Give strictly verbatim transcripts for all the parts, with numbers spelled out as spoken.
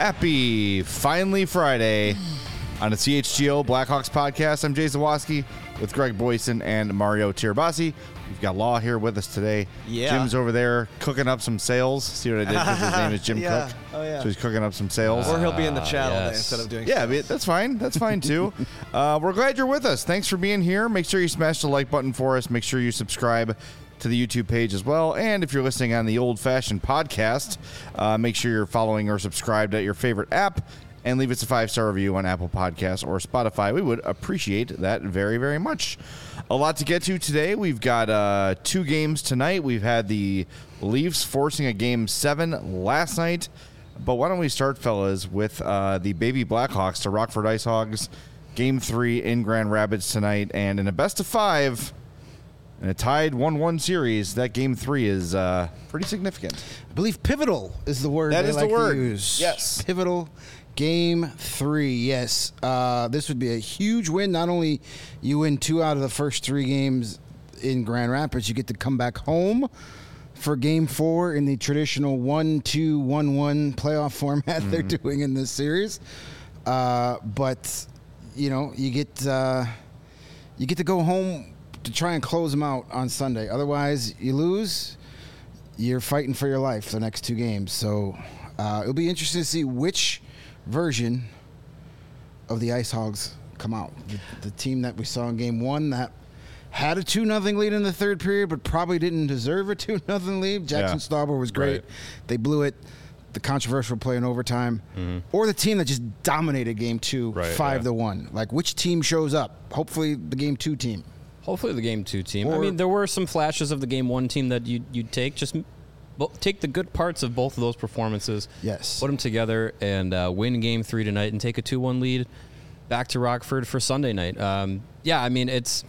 Happy finally Friday on the C H G O Blackhawks podcast. I'm Jay Zawoski with Greg Boyson and Mario Tirabassi. We've got Law here with us today. Yeah. Jim's over there cooking up some sales. See what I did? Because his name is Jim yeah. Cook. Oh, yeah. So he's cooking up some sales. Or he'll be in the chat all day yes. instead of doing Yeah, sales. but that's fine. That's fine, too. uh, we're glad you're with us. Thanks for being here. Make sure you smash the like button for us. Make sure you subscribe to the YouTube page as well. And if you're listening on the old-fashioned podcast, uh, make sure you're following or subscribed at your favorite app and leave us a five-star review on Apple Podcasts or Spotify. We would appreciate that very, very much. A lot to get to today. We've got uh, two games tonight. We've had the Leafs forcing a game seven last night. But why don't we start, fellas, with uh, the baby Blackhawks to Rockford Ice Hogs, game three in Grand Rapids tonight. And in a best of five, in a tied one one series, that game three is uh, pretty significant. I believe pivotal is the word That they is the like to word. use. Yes. Pivotal game three, yes. Uh, this would be a huge win. Not only you win two out of the first three games in Grand Rapids, you get to come back home for game four in the traditional one two one one playoff format mm-hmm. they're doing in this series. Uh, but, you know, you get uh, you get to go home to try and close them out on Sunday. Otherwise, you lose, you're fighting for your life the next two games. So uh, it'll be interesting to see which version of the Ice Hogs come out. The, the team that we saw in game one that had a two nothing lead in the third period, but probably didn't deserve a two nothing lead. Jackson Yeah. Stauber was great. Right. They blew it. The controversial play in overtime. Mm-hmm. Or the team that just dominated game two, Right, five yeah. to one. Like, which team shows up? Hopefully the game two team. Hopefully the game two team. I Or- mean, there were some flashes of the game one team that you you'd take. Just bo- take the good parts of both of those performances. Yes. Put them together and uh, win game three tonight and take a two one lead back to Rockford for Sunday night. Um, yeah, I mean it's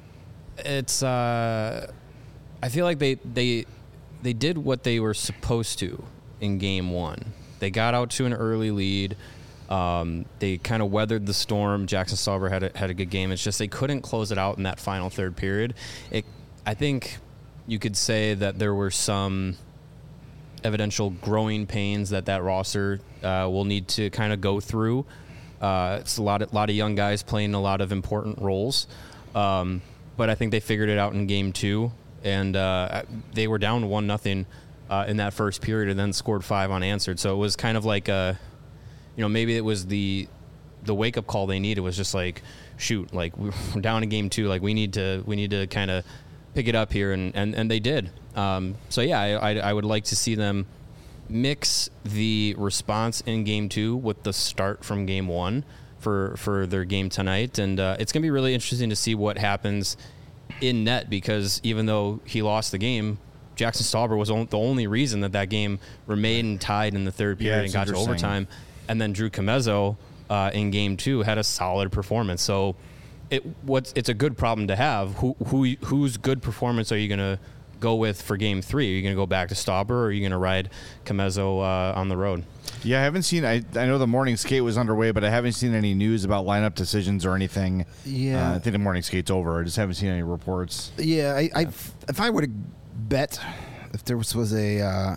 it's. Uh, I feel like they they they did what they were supposed to in game one. They got out to an early lead. Um, they kind of weathered the storm. Jackson Stauber had a, had a good game. It's just they couldn't close it out in that final third period. It, I think you could say that there were some evidential growing pains that that roster uh, will need to kind of go through. Uh, it's a lot of, lot of young guys playing a lot of important roles. Um, but I think they figured it out in game two, and uh, they were down one nothing uh, in that first period and then scored five unanswered. So it was kind of like a, you know, maybe it was the the wake up call they needed was just like, shoot, like we're down in game two, like we need to we need to kind of pick it up here, and, and, and they did. Um, so yeah, I, I I would like to see them mix the response in game two with the start from game one for for their game tonight, and uh, it's gonna be really interesting to see what happens in net, because even though he lost the game, Jackson Stauber was on, the only reason that that game remained tied in the third period Yeah, and it's got to interesting. overtime. And then Drew Comezzo uh, in game two had a solid performance. So it what's it's a good problem to have. Who who whose good performance are you going to go with for game three? Are you going to go back to Stauber, or are you going to ride Comezzo uh, on the road? Yeah, I haven't seen. I I know the morning skate was underway, but I haven't seen any news about lineup decisions or anything. Yeah. uh, I think the morning skate's over. I just haven't seen any reports. Yeah, I, I if I were to bet, if there was, was a, uh,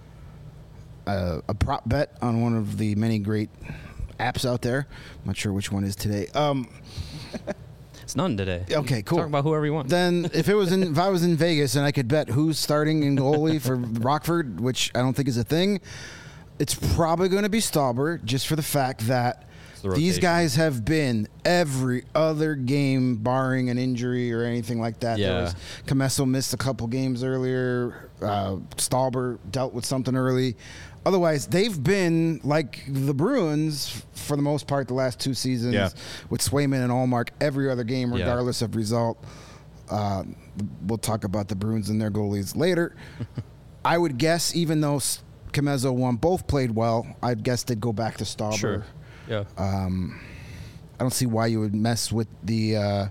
a a prop bet on one of the many great apps out there, I'm not sure which one is today. Um, It's none today. Okay, cool. Talk about whoever you want. then if it was in, if I was in Vegas and I could bet who's starting in goalie for Rockford, which I don't think is a thing, it's probably going to be Stauber, just for the fact that the these rotation. guys have been every other game, barring an injury or anything like that. There Yeah. was, Commesso missed a couple games earlier. Uh, Stauber dealt with something early. Otherwise, they've been like the Bruins for the most part the last two seasons, Yeah. with Swayman and Allmark every other game, Yeah. regardless of result. Uh, we'll talk about the Bruins and their goalies later. I would guess, even though Comezzo won, both played well, I'd guess they'd go back to Stauber. Sure. Yeah. Um, I don't see why you would mess with the uh,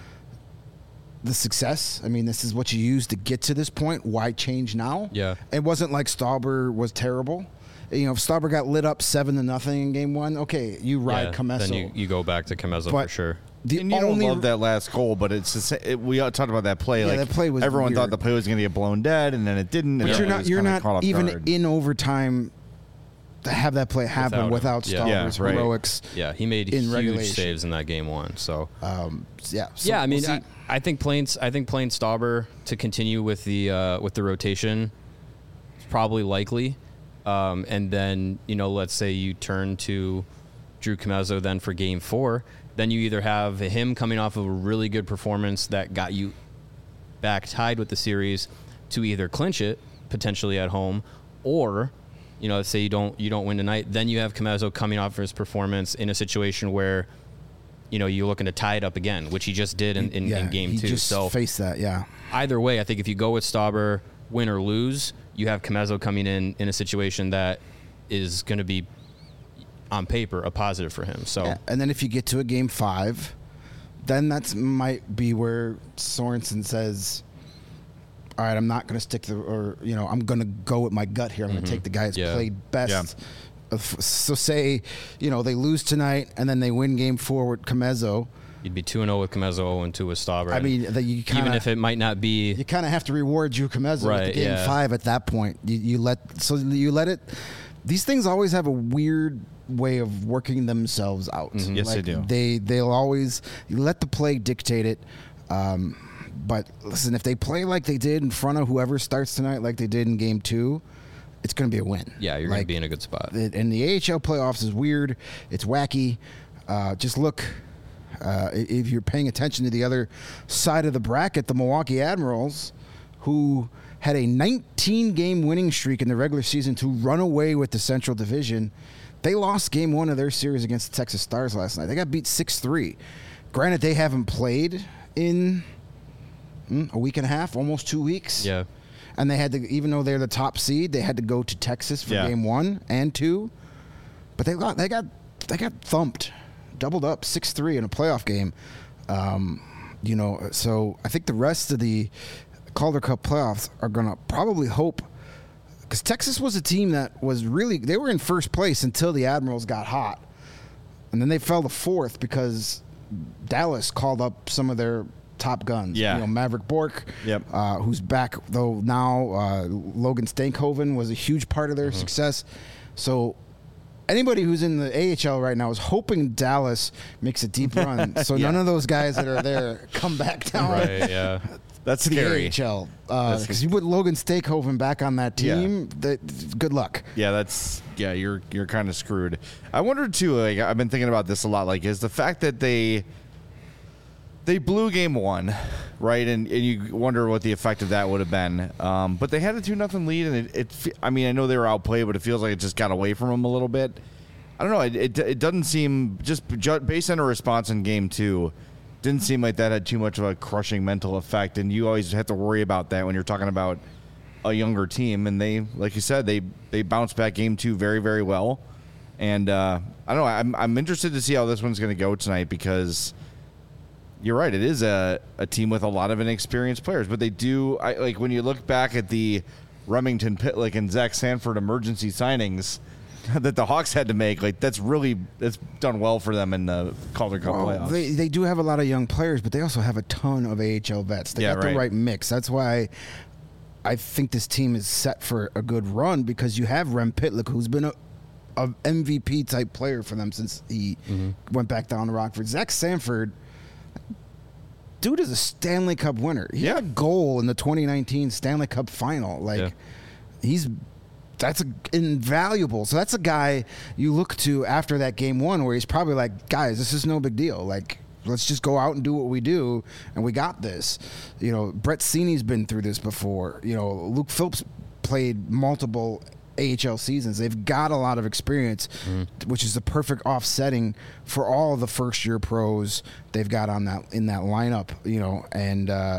the success. I mean, this is what you use to get to this point. Why change now? Yeah. It wasn't like Stauber was terrible. You know, if Stauber got lit up seven to nothing in game one, okay, you ride yeah. Commesso. Then you, you go back to Comezzo But for sure. The and you only don't love that last goal, but it's the sa- it, we talked about that play. Yeah, like that play was everyone weird. thought the play was going to get blown dead, and then it didn't. But and you're everyone not was you're kinda not caught off even guard. in overtime to have that play happen Without without, him. Yeah. Stauber's Yeah, right. heroics. Yeah, he made in huge regulation. saves in that game one. So Um, yeah. So yeah, I mean, we'll I, see. I think playing I think playing Stauber to continue with the uh, with the rotation is probably likely. Um, and then you know, let's say you turn to Drew Commesso then for Game Four. Then you either have him coming off of a really good performance that got you back tied with the series to either clinch it potentially at home, or you know, let's say you don't you don't win tonight. Then you have Commesso coming off of his performance in a situation where you know you're looking to tie it up again, which he just did in, in, yeah, in Game he Two. Just So face that. Yeah. either way, I think if you go with Stauber, win or lose, you have Commesso coming in in a situation that is going to be on paper a positive for him. So Yeah, and then if you get to a game five, then that's might be where Sorensen says, "All right, I'm not going to stick to, or you know, I'm going to go with my gut here. I'm going to take the guy that's Yeah. played best." Yeah. Uh, f- So say, you know, they lose tonight and then they win game four with Commesso. you'd be two and zero with Commesso, zero and two with Stauber. I And mean, that you kinda, even if it might not be you kind of have to reward Drew Commesso Right, with the game yeah. five at that point. You, you let so you let it. These things always have a weird way of working themselves out. Mm-hmm. Yes, they Like, do. They they'll always you let the play dictate it. Um, but listen, if they play like they did in front of whoever starts tonight, like they did in game two, it's going to be a win. yeah, you're going to Like, be in a good spot. it- and the A H L playoffs is weird. It's wacky. Uh, just look. Uh, i- if you're paying attention to the other side of the bracket, the Milwaukee Admirals, who had a nineteen-game winning streak in the regular season to run away with the Central Division, they lost game one of their series against the Texas Stars last night. They got beat six three. Granted, they haven't played in mm, a week and a half, almost two weeks. Yeah. And they had to, even though they're the top seed, they had to go to Texas for Yeah. game one and two. But they got they got they got thumped, doubled up six three in a playoff game. Um, you know, so I think the rest of the Calder Cup playoffs are going to probably hope, because Texas was a team that was really, they were in first place until the Admirals got hot, and then they fell to fourth because Dallas called up some of their top guns. Yeah. You know, Maverick Bork, Yep. uh, who's back though now. Uh, Logan Stankhoven was a huge part of their Mm-hmm. success. So anybody who's in the A H L right now is hoping Dallas makes a deep run. So Yeah. none of those guys that are there come back down Right, yeah. That's to the scary. A H L. That's- Because you put Logan Stankhoven back on that Yeah. team, that, good luck. Yeah, that's yeah. You're you're kind of screwed. I wondered too. Like I've been thinking about this a lot. Like is the fact that they they blew game one, right? And, and you wonder what the effect of that would have been. Um, but they had a two nothing lead, and it, it. fe- I mean, I know they were outplayed, but it feels like it just got away from them a little bit. I don't know. It it, it doesn't seem just ju- based on a response in game two. Didn't seem like that had too much of a crushing mental effect, and you always have to worry about that when you're talking about a younger team. And they, like you said, they they bounced back game two very very well. And uh, I don't know. I'm I'm interested to see how this one's going to go tonight, because you're right. It is a, a team with a lot of inexperienced players, but they do. I like when you look back at the Remington Pitlick and Zach Sanford emergency signings that the Hawks had to make. Like that's really that's done well for them in the Calder Cup Well, playoffs. they they do have a lot of young players, but they also have a ton of A H L vets. They Yeah, got right. the right mix. That's why I think this team is set for a good run, because you have Rem Pitlick, who's been a, a M V P type player for them since he Mm-hmm. went back down to Rockford. Zach Sanford, dude, is a Stanley Cup winner. He Yeah. had a goal in the twenty nineteen Stanley Cup final. Like Yeah. he's that's a, invaluable. So that's a guy you look to after that game one, where he's probably like, guys, this is no big deal. Like, let's just go out and do what we do, and we got this. You know, Brett Seeney's been through this before. You know, Luke Phillips played multiple A H L seasons. They've got a lot of experience, which is the perfect offsetting for all the first year pros they've got on that in that lineup. You know, and uh,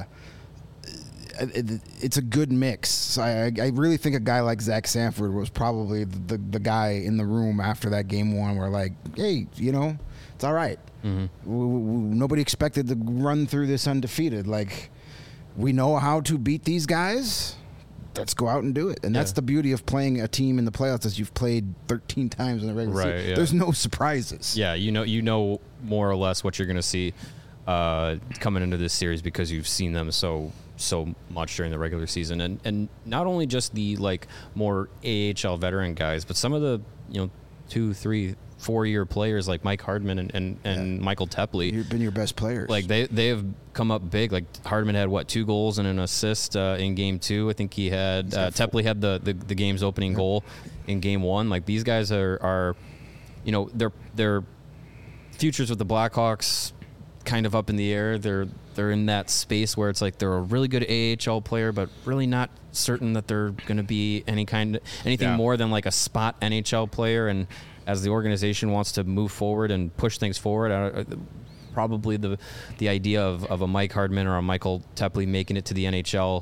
it, it's a good mix. So I, I really think a guy like Zach Sanford was probably the, the guy in the room after that game one, where like, hey, you know, it's all right. Mm-hmm. W- w- nobody expected to run through this undefeated. Like, we know how to beat these guys. Let's go out and do it. And that's Yeah. the beauty of playing a team in the playoffs, as you've played thirteen times in the regular Right, season. yeah. There's no surprises. Yeah, you know, you know more or less what you're going to see. uh, coming into this series because you've seen them so so much during the regular season, and and not only just the like more A H L veteran guys, but some of the you know two, three, four year players like Mike Hardman and and, and Yeah. Michael Tepley. You've been your best players. Like they they have come up big. Like Hardman had what two goals and an assist uh, in game two. I think he had uh, Tepley had the, the the game's opening Yeah. goal in game one. Like these guys are are, you know, their their futures with the Blackhawks kind of up in the air. They're they're in that space where it's like they're a really good A H L player, but really not certain that they're going to be any kind anything Yeah. more than like a spot N H L player. And as the organization wants to move forward and push things forward, uh, probably the the idea of, of a Mike Hardman or a Michael Tepley making it to the N H L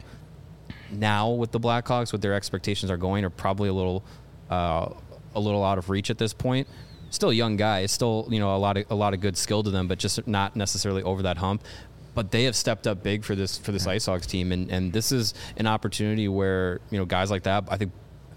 now with the Blackhawks, what their expectations are going, are probably a little uh, a little out of reach at this point. Still young guys, still you know a lot of a lot of good skill to them, but just not necessarily over that hump. But they have stepped up big for this for this Ice Hawks team, and, and this is an opportunity where you know guys like that. I think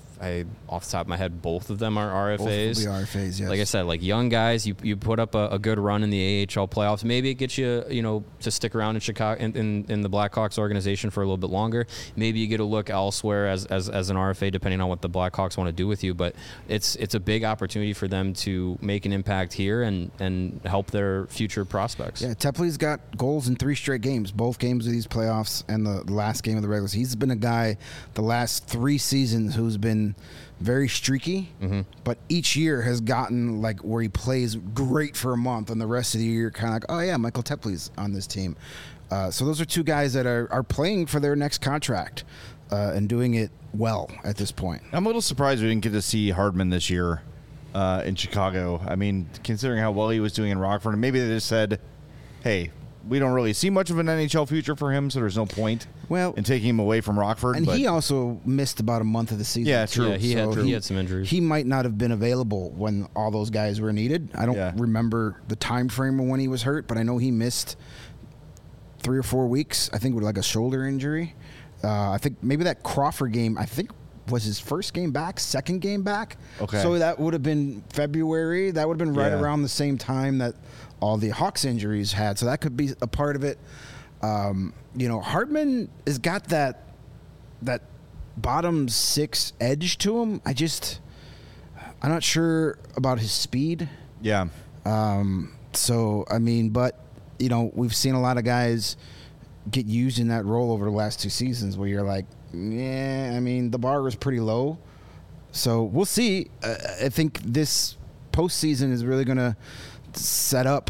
I off the top of my head, both of them are R F As. Both will be R F As, yes. Like I said, like young guys, you you put up a, a good run in the A H L playoffs. Maybe it gets you, you know, to stick around in Chicago in, in, in the Blackhawks organization for a little bit longer. Maybe you get a look elsewhere as, as as an R F A, depending on what the Blackhawks want to do with you. But it's it's a big opportunity for them to make an impact here and and help their future prospects. Yeah, Tepley's got goals in three straight games, both games of these playoffs and the last game of the regular season. He's been a guy the last three seasons who's been very streaky, mm-hmm. but each year has gotten like where he plays great for a month, and the rest of the year kind of like, oh yeah, Michael Tepley's on this team. Uh, so those are two guys that are, are playing for their next contract uh, and doing it well at this point. I'm a little surprised we didn't get to see Hardman this year uh, in Chicago. I mean, considering how well he was doing in Rockford, and maybe they just said, hey, we don't really see much of an N H L future for him, so there's no point well, in taking him away from Rockford. And but he also missed about a month of the season. Yeah, true. Yeah, he So had he had some injuries. He might not have been available when all those guys were needed. I don't Yeah. remember the time frame of when he was hurt, but I know he missed three or four weeks. I think with like a shoulder injury. Uh, I think maybe that Crawford game, I think, was his first game back, second game back. Okay. So that would have been February. That would have been right Yeah. around the same time that all the Hawks injuries had. So that could be a part of it. Um, you know, Hardman has got that that bottom six edge to him. I just, I'm not sure about his speed. yeah. Um, so, I mean, but, you know, we've seen a lot of guys get used in that role over the last two seasons where you're like, yeah, I mean, the bar was pretty low. So we'll see. Uh, I think this postseason is really going to set up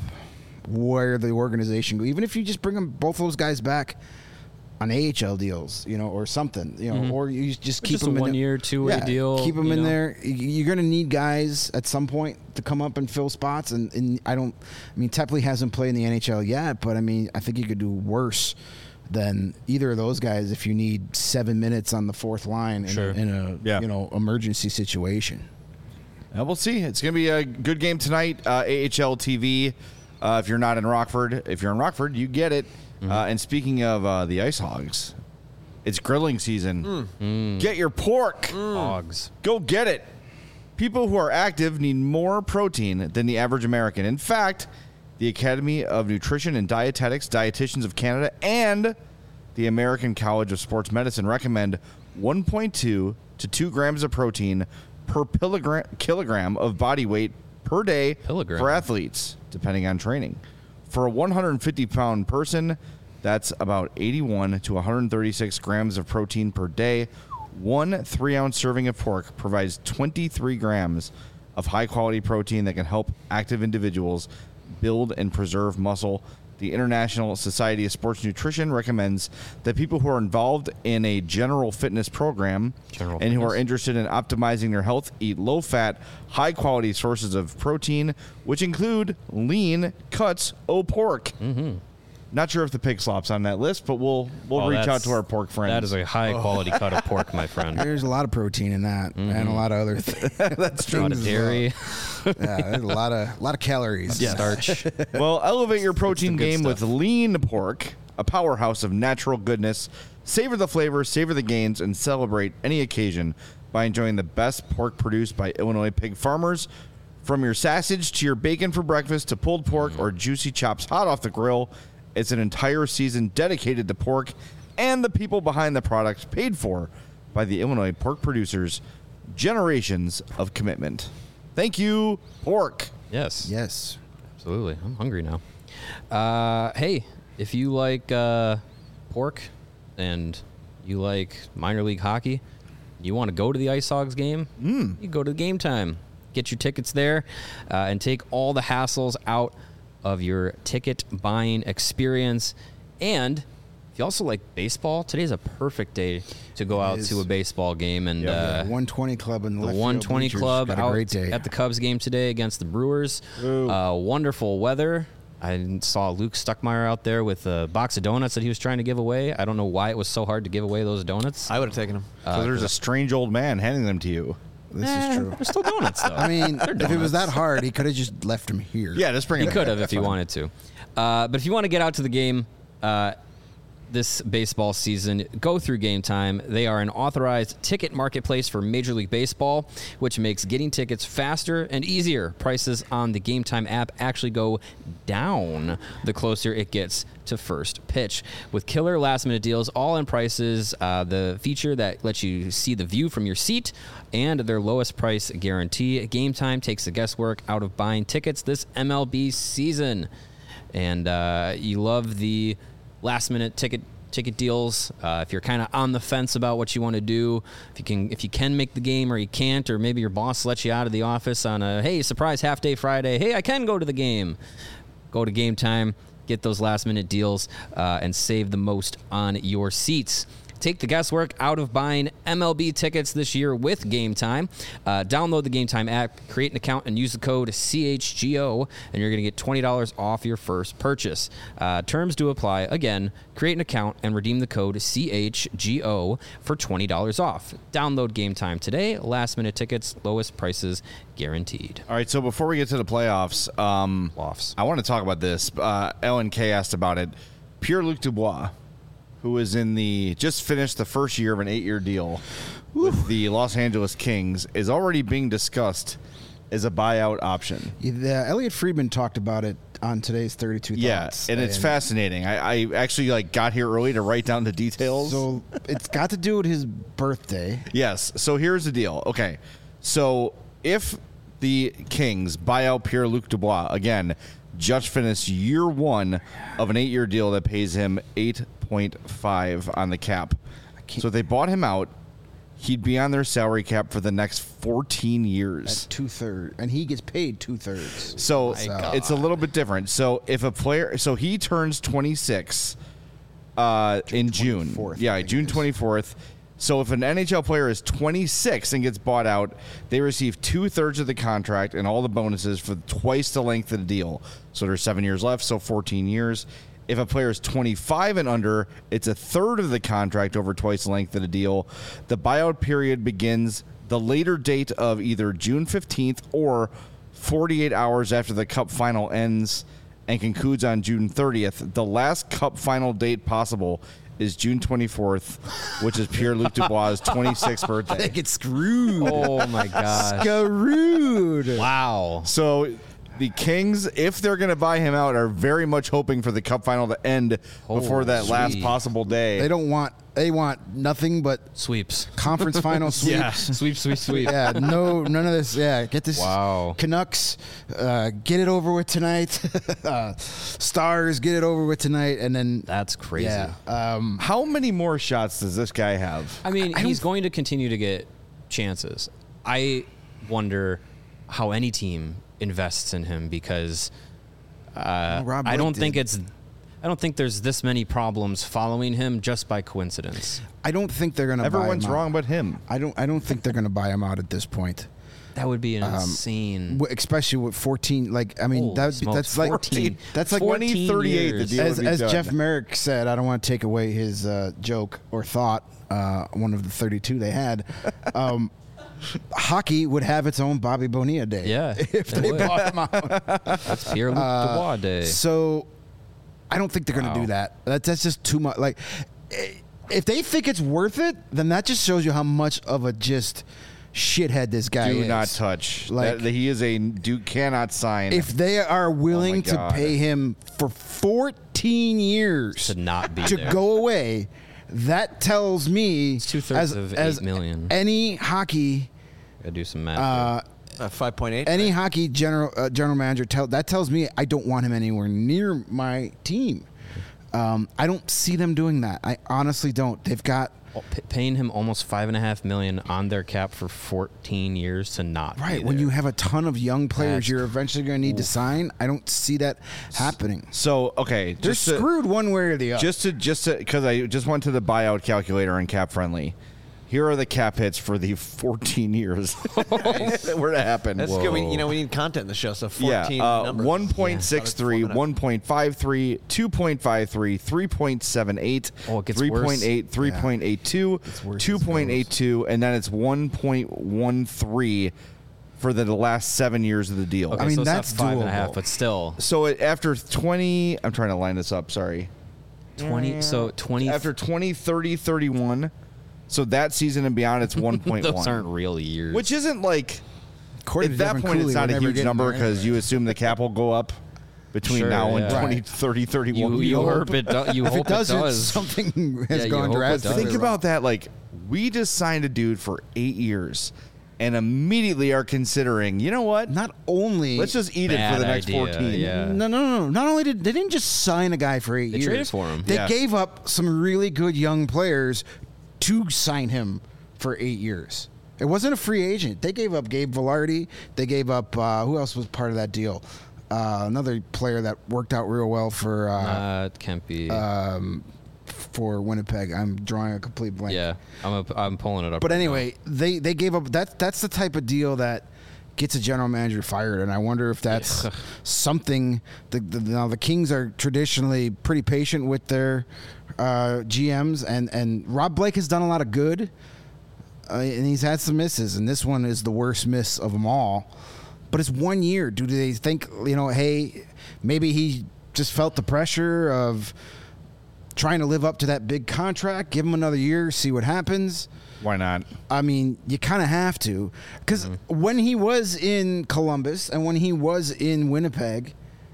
where the organization go. Even if you just bring them, both those guys back on A H L deals, you know, or something, you know, Mhm. or you just keep just them a in one the- year, two way yeah, deal. Keep them you in know? there. Y- You're going to need guys at some point to come up and fill spots. And, and I don't, I mean, Tepley hasn't played in the N H L yet, but I mean, I think you could do worse than either of those guys if you need seven minutes on the fourth line in, Sure. a, in a Yeah. you know emergency situation. Uh, we'll see. It's going to be a good game tonight. Uh, A H L T V. Uh, if you're not in Rockford, if you're in Rockford, you get it. Mm-hmm. Uh, and speaking of uh, the Ice Hogs, it's grilling season. Mm. Get your pork. Hogs. Go get it. People who are active need more protein than the average American. In fact, the Academy of Nutrition and Dietetics, Dietitians of Canada, and the American College of Sports Medicine recommend one point two to two grams of protein per kilogram, kilogram of body weight per day Kilogram. for athletes, depending on training. For a one hundred fifty pound person, that's about eighty-one to one hundred thirty-six grams of protein per day. One three-ounce serving of pork provides twenty-three grams of high-quality protein that can help active individuals build and preserve muscle. The International Society of Sports Nutrition recommends that people who are involved in a general fitness program General and who are fitness. interested in optimizing their health eat low-fat, high-quality sources of protein, which include lean cuts o pork. Mm-hmm. Not sure if the pig slop's on that list, but we'll we'll Oh, reach out that's- to our pork friends. That is a high quality cut of pork, my friend. There's a lot of protein in that, and a lot of other things. That's A lot of dairy, Yeah, there's a lot of a lot of calories. starch. Well, elevate your protein good game with stuff. lean pork, a powerhouse of natural goodness. Savor the flavor, savor the gains, and celebrate any occasion by enjoying the best pork produced by Illinois pig farmers. From your sausage to your bacon for breakfast to pulled pork or juicy chops hot off the grill, it's an entire season dedicated to pork and the people behind the product, paid for by the Illinois pork producers. Generations of commitment. Thank you, pork. Yes. Yes. Absolutely. I'm hungry now. Uh, hey, if you like uh, pork and you like minor league hockey, you want to go to the Ice Hogs game, mm. you go to Game Time. Get your tickets there uh, and take all the hassles out of your ticket buying experience. And if you also like baseball, today's a perfect day to go It out is. to a baseball game. And uh, one twenty Club in the, the left one field twenty bleachers Club got a out great day. at the Cubs game today against the Brewers. Uh, wonderful weather. I saw Luke Stuckmeyer out there with a box of donuts that he was trying to give away. I don't know why it was so hard to give away those donuts. I would have taken them. So there's a strange old man handing them to you. This Eh, is true. They're still donuts, though. I mean, if it was that hard, he could have just left him here. Yeah, just bring He it. could have if he wanted to. Uh, but if you want to get out to the game uh, this baseball season, go through Game Time. They are an authorized ticket marketplace for Major League Baseball, which makes getting tickets faster and easier. Prices on the Game Time app actually go down the closer it gets to first pitch. With killer last-minute deals, all-in prices, uh, the feature that lets you see the view from your seat, and their lowest price guarantee. Game Time takes the guesswork out of buying tickets this M L B season. And uh, you love the last-minute ticket ticket deals. Uh, if you're kind of on the fence about what you want to do, if you can if you can make the game or you can't, or maybe your boss lets you out of the office on a, hey, surprise half-day Friday, hey, I can go to the game. Go to Game Time, get those last-minute deals, uh, and save the most on your seats. Take the guesswork out of buying M L B tickets this year with Game Time. Uh, download the Game Time app, create an account, and use the code C H G O, and you're going to get twenty dollars off your first purchase. Uh, terms do apply. Again, create an account and redeem the code C H G O for twenty dollars off. Download Game Time today. Last-minute tickets, lowest prices guaranteed. All right, so before we get to the playoffs, um, Lofts. I want to talk about this. Uh, Ellen K asked about it. Pierre-Luc Dubois, who is in the just finished the first year of an eight-year deal with the Los Angeles Kings, is already being discussed as a buyout option. Yeah, Elliot Friedman talked about it on today's thirty-two Yeah, Thoughts. and it's fascinating. I, I actually like got here early to write down the details. So it's got to do with his birthday. Yes. So here's the deal. Okay. So if the Kings buy out Pierre-Luc Dubois, again, just finished year one of an eight-year deal that pays him eight point five on the cap. So if they bought him out, he'd be on their salary cap for the next fourteen years. At two thirds, and he gets paid two thirds. So God. it's a little bit different. So if a player, so he turns twenty-six uh, in June. twenty-fourth, Yeah, I think June it is. twenty-fourth. So if an N H L player is twenty-six and gets bought out, they receive two thirds of the contract and all the bonuses for twice the length of the deal. So there's seven years left, so fourteen years. If a player is twenty-five and under, it's a third of the contract over twice the length of the deal. The buyout period begins the later date of either June fifteenth or forty-eight hours after the Cup final ends and concludes on June thirtieth. The last Cup final date possible is June twenty-fourth, which is Pierre-Luc Dubois' twenty-sixth birthday. They get screwed. Oh, my gosh. Screwed. Wow. So the Kings, if they're going to buy him out, are very much hoping for the Cup final to end before that Holy last sweet. possible day. They don't want. They want nothing but Sweeps. conference final sweeps. Yeah. Sweep, sweep, sweep. Yeah, no, none of this. Yeah, get this. Wow. Canucks, uh, get it over with tonight. uh, Stars, get it over with tonight, and then That's crazy. yeah. Um, How many more shots does this guy have? I mean, he's going to continue to get chances. I wonder how any team invests in him because uh, Rob I Blake don't did. think it's. I don't think there's this many problems following him just by coincidence. I don't think they're gonna. Everyone's buy him wrong out. but him. I don't. I don't think they're gonna buy him out at this point. That would be an Um, insane. W- Especially with fourteen. Like I mean, Holy that would be, smokes, that's like fourteen. That's like fourteen twenty thirty-eight, the years. deal. as, would be as done. Jeff Merrick said. I don't want to take away his uh, joke or thought. Uh, one of the thirty-two they had. Um, hockey would have its own Bobby Bonilla day. Yeah, if it they would. bought him out. That's Pierre-Luc Uh, Dubois Day. So I don't think they're going to Wow. do that. That's, that's just too much. Like, eh, if they think it's worth it, then that just shows you how much of a just shithead this guy Do is. not touch. Like- That- he is a Duke cannot sign. If they are willing to God. pay him for fourteen years To not be to there. go away, that tells me It's two-thirds as, of as eight million. any hockey Gotta do some math. uh, Uh, five point eight. any hockey general uh, general manager tell that tells me I don't want him anywhere near my team. Um, I don't see them doing that. I honestly don't. They've got there. P- paying him almost five and a half million on their cap for fourteen years to not right be when there. you have a ton of young players That's- you're eventually going to need to sign. I don't see that happening. so okay, They're just to, screwed one way or the other. just to just to because I just went to the buyout calculator on Cap Friendly. Here are the cap hits for the fourteen years that were to happen. That's good. We, you know, we need content in the show. So Yeah, fourteen uh, numbers. one point six three, Yeah. one point five three, two point five three, three point seven eight, Oh, it gets three point eight, worse. three point eight two, worse as it two point eight two, and then it's one point one three for the last seven years of the deal. Okay, I mean, so it's not that's five and a half, doable. but still So it, after twenty, I'm trying to line this up, sorry. twenty. So twenty. After twenty, thirty, thirty-one, so that season and beyond, it's one point one. Those aren't real years. Which isn't like, According at to that Devin point, Cooley, it's not we're a never huge getting number there because anyway. you assume the cap will go up between Sure, now and yeah. twenty, Right. thirty, thirty-one. you, you hope it. Do, you If hope it doesn't, does. something has Yeah, you gone hope it drastically does. Think wrong. about that. Like, we just signed a dude for eight years and immediately are considering, you know what? Not only Let's just eat it for Bad the next idea, fourteen. yeah. no, no, no, no. Not only did they didn't just sign a guy for eight They years. traded for him. They Yeah. gave up some really good young players to sign him for eight years. It wasn't a free agent. They gave up Gabe Velarde. They gave up uh, who else was part of that deal? Uh, another player that worked out real well for uh, Uh, it can't be. um, for Winnipeg. I'm drawing a complete blank. yeah, I'm. A, I'm pulling it up. But right anyway, they they gave up. That that's the type of deal that gets a general manager fired, and I wonder if that's Yeah. something. The, the now the Kings are traditionally pretty patient with their uh, G Ms, and and Rob Blake has done a lot of good, uh, and he's had some misses, and this one is the worst miss of them all. But it's one year. Do they think, you know, hey, maybe he just felt the pressure of trying to live up to that big contract? Give him another year, see what happens. Why not? I mean, you kind of have to. Because when he was in Columbus and when he was in Winnipeg,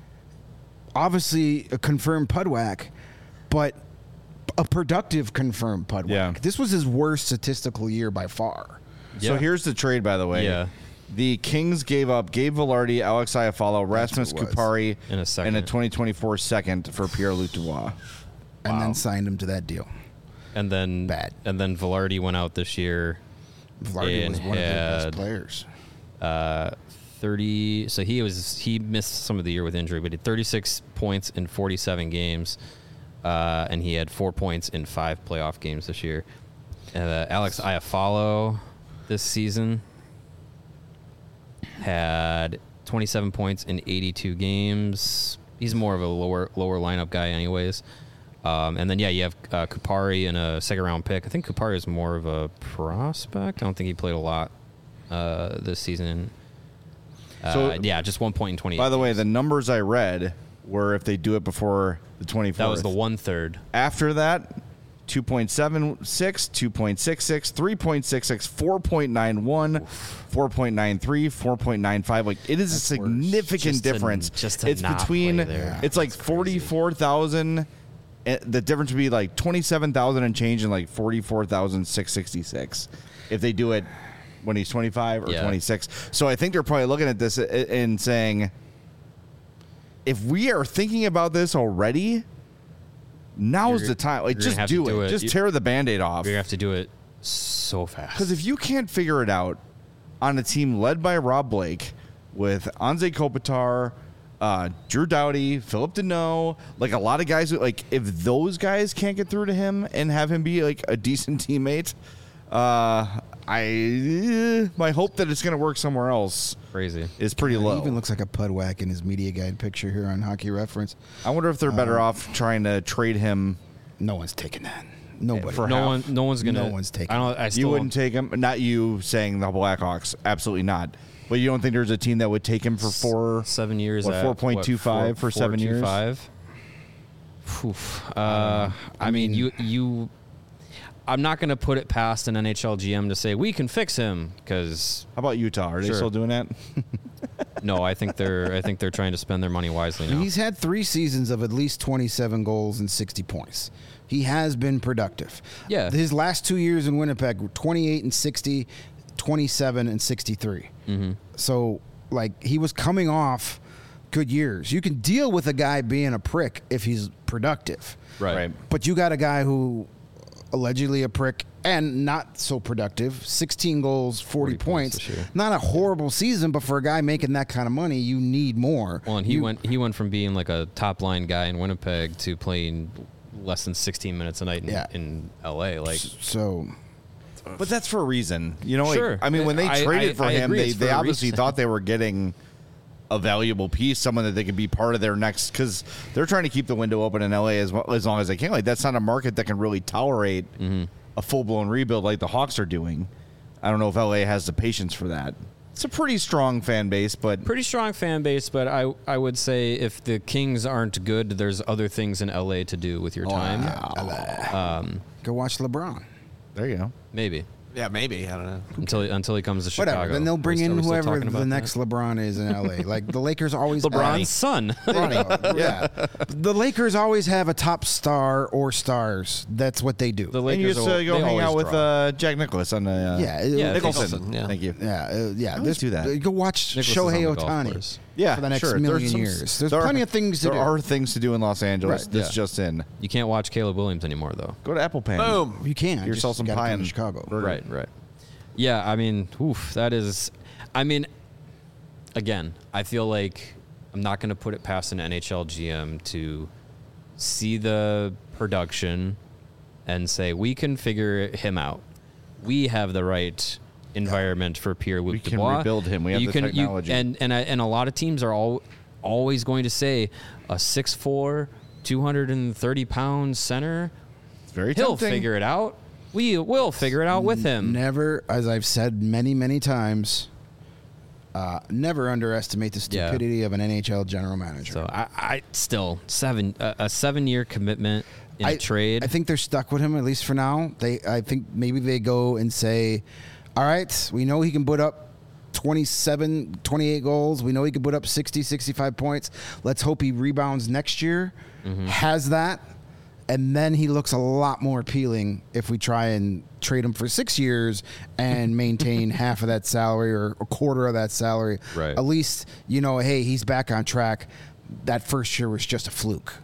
obviously a confirmed Pudwack, but a productive confirmed Pudwack. Yeah. This was his worst statistical year by far. So Yeah. here's the trade, by the way. Yeah. The Kings gave up Gabe Velarde, Alex Iafallo, Rasmus what it was. Kupari, In a second. and a twenty twenty-four second for Pierre-Luc Dubois. And Wow. then signed him to that deal. And then Bad. And then Velarde went out this year. Velarde was And one of their had- best players. Uh, thirty. So he was he missed some of the year with injury, but he had thirty-six points in forty-seven games, uh, and he had four points in five playoff games this year. Uh, Alex Iafallo this season had twenty-seven points in eighty-two games. He's more of a lower lower lineup guy, anyways. Um, and then yeah, you have uh, Kupari and a second round pick. I think Kupari is more of a prospect. I don't think he played a lot uh, this season. Uh, So- yeah, just one point in twenty. By the way, the numbers I read were if they do it before the twenty-fourth. that was the one third. After that, two point seven six, two point six six, three point six six, four point nine one, four point nine three, four point nine five. Like, it is That's a worse. significant Just to- difference. just to it's not between, play there. it's like forty-four thousand. The difference would be like twenty-seven thousand and change and like forty-four thousand six hundred sixty-six if they do it when he's twenty-five or Yeah. twenty-six. So I think they're probably looking at this and saying, if we are thinking about this already, now's You're- the time. Like, you're gonna just have to do, do it. it. Just You- tear the Band-Aid off. You're gonna have to do it so fast. Because if you can't figure it out on a team led by Rob Blake with Anze Kopitar, uh, Drew Doughty, Philip Deneau, like a lot of guys, who, like if those guys can't get through to him and have him be like a decent teammate, uh, I my hope that it's going to work somewhere else crazy. is pretty He low. even looks like a Pudwack in his media guide picture here on Hockey Reference. I wonder if they're better Uh, off trying to trade him. No one's taking that. Nobody. For No half. one, no one's gonna. No one's taking I don't. I still You wouldn't take him. Not you saying the Blackhawks. Absolutely not. But you don't think there's a team that would take him for four? seven years. what, at, four point two five for seven years? Five. Oof. Uh, I mean, you you. I'm not going to put it past an N H L G M to say we can fix him because How about Utah? Are they Sure. still doing that? no, I think they're I think they're trying to spend their money wisely now. He's had three seasons of at least twenty-seven goals and sixty points. He has been productive. Yeah. His last two years in Winnipeg were twenty-eight and sixty, twenty-seven and sixty-three. Mm-hmm. So, like, he was coming off good years. You can deal with a guy being a prick if he's productive. Right. Right. But you got a guy who allegedly a prick and not so productive. sixteen goals, forty, forty points points. this year. Not a horrible season, but for a guy making that kind of money, you need more. Well, and he You- went he went from being like a top line guy in Winnipeg to playing less than sixteen minutes a night in, Yeah. in L A. Like, So, But that's for a reason. You know, like, Sure. I mean, when they I- traded I- for I him, agree they, it's for they a obviously reason. thought they were getting a valuable piece, someone that they could be part of their next, because they're trying to keep the window open in L A as, well, as long as they can. Like, that's not a market that can really tolerate Mm-hmm. a full-blown rebuild like the Hawks are doing. I don't know if L A has the patience for that. It's a pretty strong fan base, but pretty strong fan base, but I I would say if the Kings aren't good, there's other things in L A to do with your time. Um, go watch LeBron. there you go. maybe Yeah, maybe. I don't know. until until he comes to Chicago. Whatever. Then they'll Are we bring still- in are we still whoever talking about the that? next LeBron is in L A. Like the Lakers always LeBron's son. have, yeah. The Lakers always have a top star or stars. That's what they do. The And you Lakers just will- uh, go they hang always out with draw. uh, Jack Nicklaus on the uh, yeah, Yeah, Nicholson. Nicholson, yeah. Thank you. Yeah, uh, yeah. always do that. Go watch Nicklaus is Shohei on the golf Ohtani course. Yeah, for the next sure. million There's some- years. There's there are- plenty of things to there do. are things to do in Los Angeles. Right, This yeah. just in. You can't watch Caleb Williams anymore, though. Go to Apple Pan. Boom. You can. Get yourself Just some gotta pie come to in Chicago. burger. Right, right. Yeah, I mean, oof, that is. I mean, again, I feel like I'm not going to put it past an N H L G M to see the production and say we can figure him out. We have the right environment for Pierre-Luc We can Dubois. rebuild him. We have you the can, technology. You, and and I, and a lot of teams are all always going to say a six foot four, two hundred thirty pound center. It's very He'll tempting. figure it out. We will figure it out with him. Never, as I've said many, many times, uh, never underestimate the Yeah. stupidity of an N H L general manager. So I, I still seven a, a seven year commitment in I, a trade. I think they're stuck with him at least for now. They, I think maybe they go and say, "All right, we know he can put up twenty-seven, twenty-eight goals. We know he can put up sixty, sixty-five points. Let's hope he rebounds next year, Mm-hmm. has that, and then he looks a lot more appealing if we try and trade him for six years and maintain half of that salary or a quarter of that salary. Right. At least you know, hey, he's back on track. That first year was just a fluke."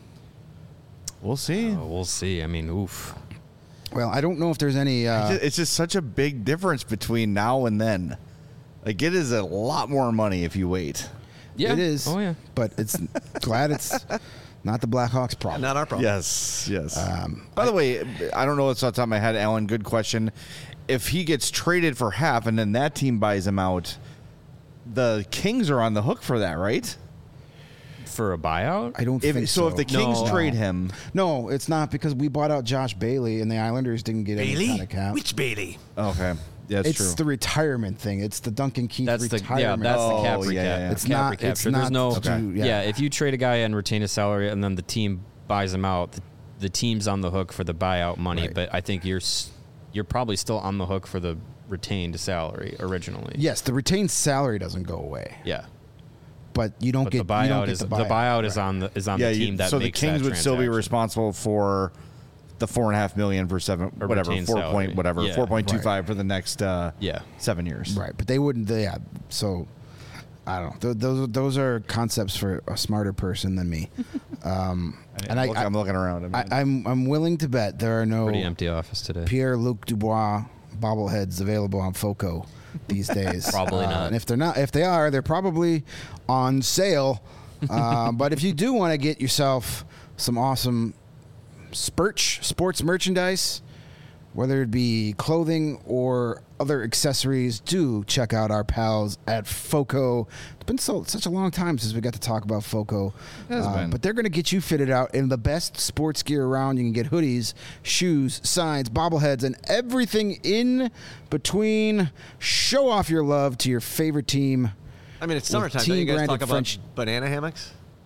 We'll see. Oh, we'll see. I mean, oof. Well, I don't know if there's any. Uh, It's just- it's just such a big difference between now and then. Like, it is a lot more money if you wait. Yeah. It is. Oh yeah. But it's glad it's not the Blackhawks' problem. Not our problem. Yes, yes. Um, By the way, I don't know what's off the top of my head, Alan. Good question. If he gets traded for half and then that team buys him out, the Kings are on the hook for that, right? For a buyout. I don't If, think so, so. if the Kings No. trade him, No, it's not because we bought out Josh Bailey and the Islanders didn't get any Bailey? kind of cap. Which Bailey? okay, yeah, that's it's true. the retirement thing. It's the Duncan Keith That's the retirement. yeah. That's Oh, the cap yeah, recap. yeah, yeah. It's cap not- recapture. it's There's not no. to- yeah. yeah. If you trade a guy and retain his salary, and then the team buys him out, the, the team's on the hook for the buyout money. Right. But I think you're s- you're probably still on the hook for the retained salary originally. Yes, the retained salary doesn't go away, Yeah. but you don't But get the you don't buyout get is the the buyout, buyout is Right. on the is on yeah, the you- team that so the makes Kings that would still be transaction. responsible for the four and a half million for seven, Or whatever, retained four salary. point, whatever, Yeah. four point two five for the next uh, Yeah. seven years. Right, but they wouldn't. They, yeah, so I don't know. Th- those those are concepts for a smarter person than me. Um, and I, Look, I, I'm looking around. I mean, I, I'm I'm willing to bet there are no Pretty empty office today. Pierre-Luc Dubois bobbleheads available on FOCO these days. Probably Uh, not. And if they're not, if they are, they're probably on sale. Uh, but if you do want to get yourself some awesome Spurch sports merchandise, whether it be clothing or other accessories, do check out our pals at FOCO. It's been so such a long time since we got to talk about FOCO. It has Uh, been. but they're going to get you fitted out in the best sports gear around. You can get hoodies, shoes, signs, bobbleheads, and everything in between. Show off your love to your favorite team. I mean, it's With summertime. Don't you guys team-branded talk about French- banana hammocks?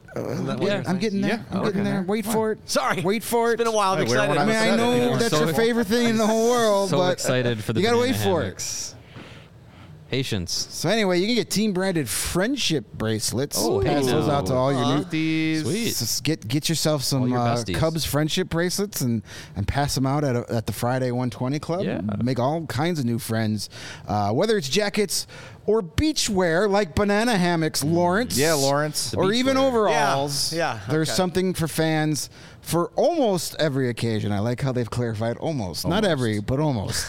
Isn't that what Yeah, you're I'm saying? getting there. Yeah, I'm okay. getting there. Wait for it. Sorry. Wait for it. It's been a while. I'm Hey, we're- excited. we're I mean, I upset. know People are that's so- your favorite thing in the whole world, So but excited for the you gotta banana wait for it. hammocks. Patience. So anyway, you can get team branded friendship bracelets. Oh, Pass hey those now. out to all your new. These Sweet. Just get get yourself All some your uh, besties. Cubs friendship bracelets and, and pass them out at, a, at the Friday one twenty Club. Yeah. Make all kinds of new friends, uh, whether it's jackets or beach wear like banana hammocks, Lawrence. Yeah, Lawrence. Or beach even wear. overalls. Yeah, yeah, There's okay. something for fans for almost every occasion. I like how they've clarified almost. Not Almost. every, but almost.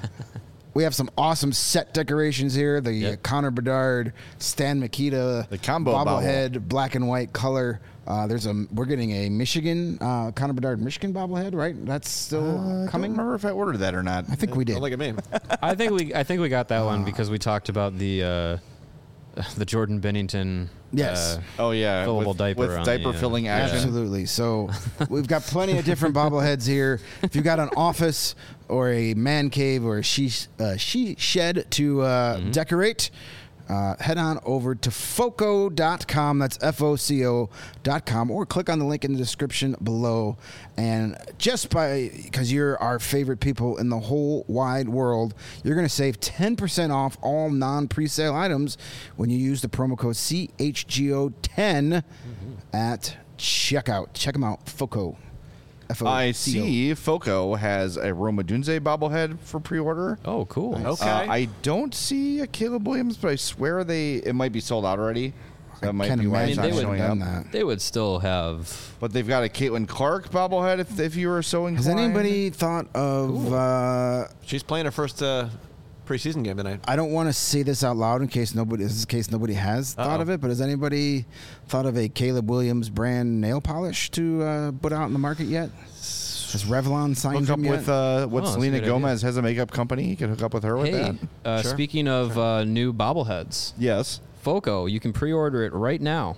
We have some awesome set decorations here. The Yep. uh, Connor Bedard, Stan Mikita, The combo bobblehead, black and white color. Uh, there's a we're getting a Michigan uh, Connor Bedard Michigan bobblehead, right? That's still Uh, I don't coming. remember if I ordered that or not. I think we did. Don't look at me. I think we I think we got that one because we talked about the uh, the Jordan Bennington. Yes. Uh, Oh yeah, Fillable with, diaper with on diaper the, uh, filling action. Absolutely. So we've got plenty of different bobbleheads here. If you've got an office or a man cave or a she, uh, she shed to uh, Mm-hmm. decorate, uh, head on over to foco dot com. That's F O C O dot com. Or click on the link in the description below. And just by, because you're our favorite people in the whole wide world, you're going to save ten percent off all non-presale items when you use the promo code C H G O ten at checkout. Check them out. Foco. F O C O. I see Foco has a Roma Dunze bobblehead for pre-order. oh, cool. Okay. Uh, I don't see a Caleb Williams, but I swear they it might be sold out already. So that might Can't be why imagine it's they not would showing done up. that. They would still have. But they've got a Caitlin Clark bobblehead if, if you were so inclined. Has anybody thought of? Uh, She's playing her first uh, preseason game tonight. I don't want to say this out loud in case nobody. This is in case nobody has thought Uh-oh. of it. But has anybody thought of a Caleb Williams brand nail polish to uh, put out in the market yet? Has Revlon signed Hook up him yet? with uh, what Oh, that's a Selena good idea. Gomez has a makeup company. You can hook up with her with Hey, that. uh, Sure. speaking of uh, new bobbleheads, Yes. Foco, you can pre-order it right now.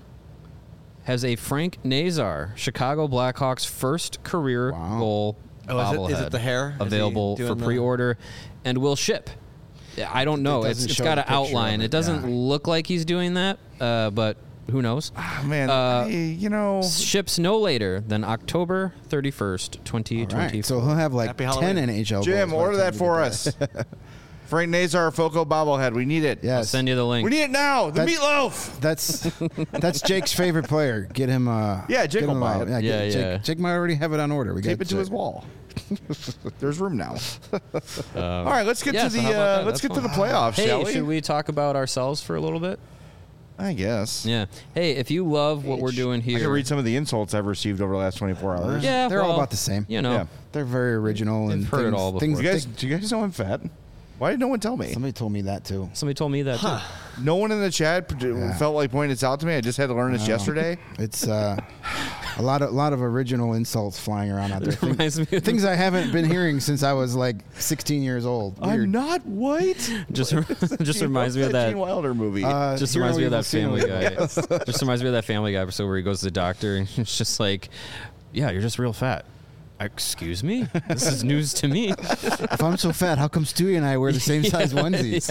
Has a Frank Nazar, Chicago Blackhawks first career Wow. goal Oh, is it- bobblehead is it the hair? Is he available doing for the- pre-order and will ship. Yeah, I don't know. It It's doesn't it's show got the an picture of outline. it, It doesn't yeah. look like he's doing that, uh, but who knows? Oh, man, Uh, I- you know. Ships no later than October thirty-first, twenty All twenty-four. right, so he'll have like Happy ten Halloween. N H L. Jim, goals by order the that time for you us. Frank Nazar Foco bobblehead. We need it. get that. I'll Yes, send you the link. We need it now. The That- meatloaf. That's that's Jake's favorite player. Get him. Uh, Yeah, Jake get will him buy out. it. Yeah, Yeah, get- Jake, yeah. Jake might already have it on order. We Tape got it to his wall. There's room now. Um, All right, let's get yeah, to so the how about uh, that? let's That's get to the fun. playoffs, Hey, shall we? should we talk about ourselves for a little bit? I guess. Yeah. Hey, if you love what we're doing here, I can read some of the insults I've received over the last twenty-four hours. Yeah, They're all well, about the same. You know, Yeah. They're very original They've and heard it things, all before. things Do you guys, they- do you guys know I'm fat? Why did no one tell me? somebody told me that too. somebody told me that too. No one in the chat p- Yeah. felt like pointing this out to me. I just had to learn this yesterday. It's uh, a lot of lot of original insults flying around out there. Thing- Reminds me of Things I haven't been hearing since I was like sixteen years old. Weird. I'm not white. just just Gene- reminds me of that that. Gene Wilder movie. Uh, Just Hero reminds me of Evil that Family Sino. Guy. Just reminds me of that Family Guy episode where he goes to the doctor and it's just like, "Yeah, you're just real fat." Excuse me? This is news to me. If I'm so fat, how come Stewie and I wear the same size onesies?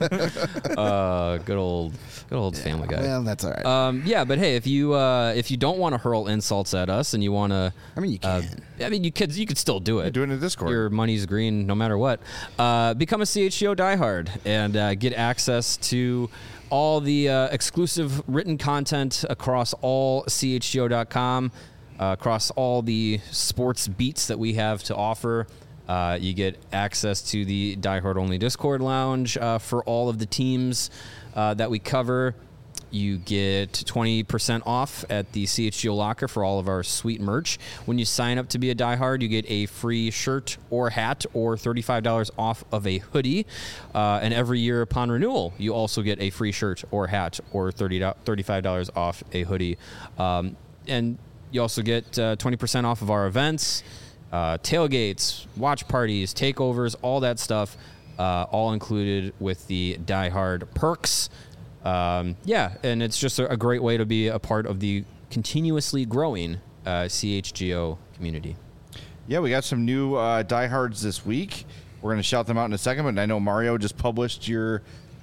Uh, good old, good old Family Guy. Well, that's all right. Um, yeah, but hey, if you uh, if you don't want to hurl insults at us and you want to, I mean, you uh, can. I mean, you could you could still do it. Do it in the Discord. Your money's green no matter what. Uh, become a C H G O diehard and uh, get access to all the uh, exclusive written content across all C H G O dot com, uh, across all the sports beats that we have to offer. Uh, you get access to the Die Hard Only Discord lounge uh, for all of the teams uh, that we cover. You get twenty percent off at the C H G O locker for all of our sweet merch. When you sign up to be a diehard, you get a free shirt or hat or thirty-five dollars off of a hoodie. Uh, and every year upon renewal, you also get a free shirt or hat or thirty, thirty-five dollars off a hoodie. Um, and you also get uh, twenty percent off of our events, uh, tailgates, watch parties, takeovers, all that stuff, uh, all included with the Die Hard perks. Um, yeah, and it's just a, a great way to be a part of the continuously growing uh, C H G O community. Yeah, we got some new uh, diehards this week. We're going to shout them out in a second, but I know Mario just published your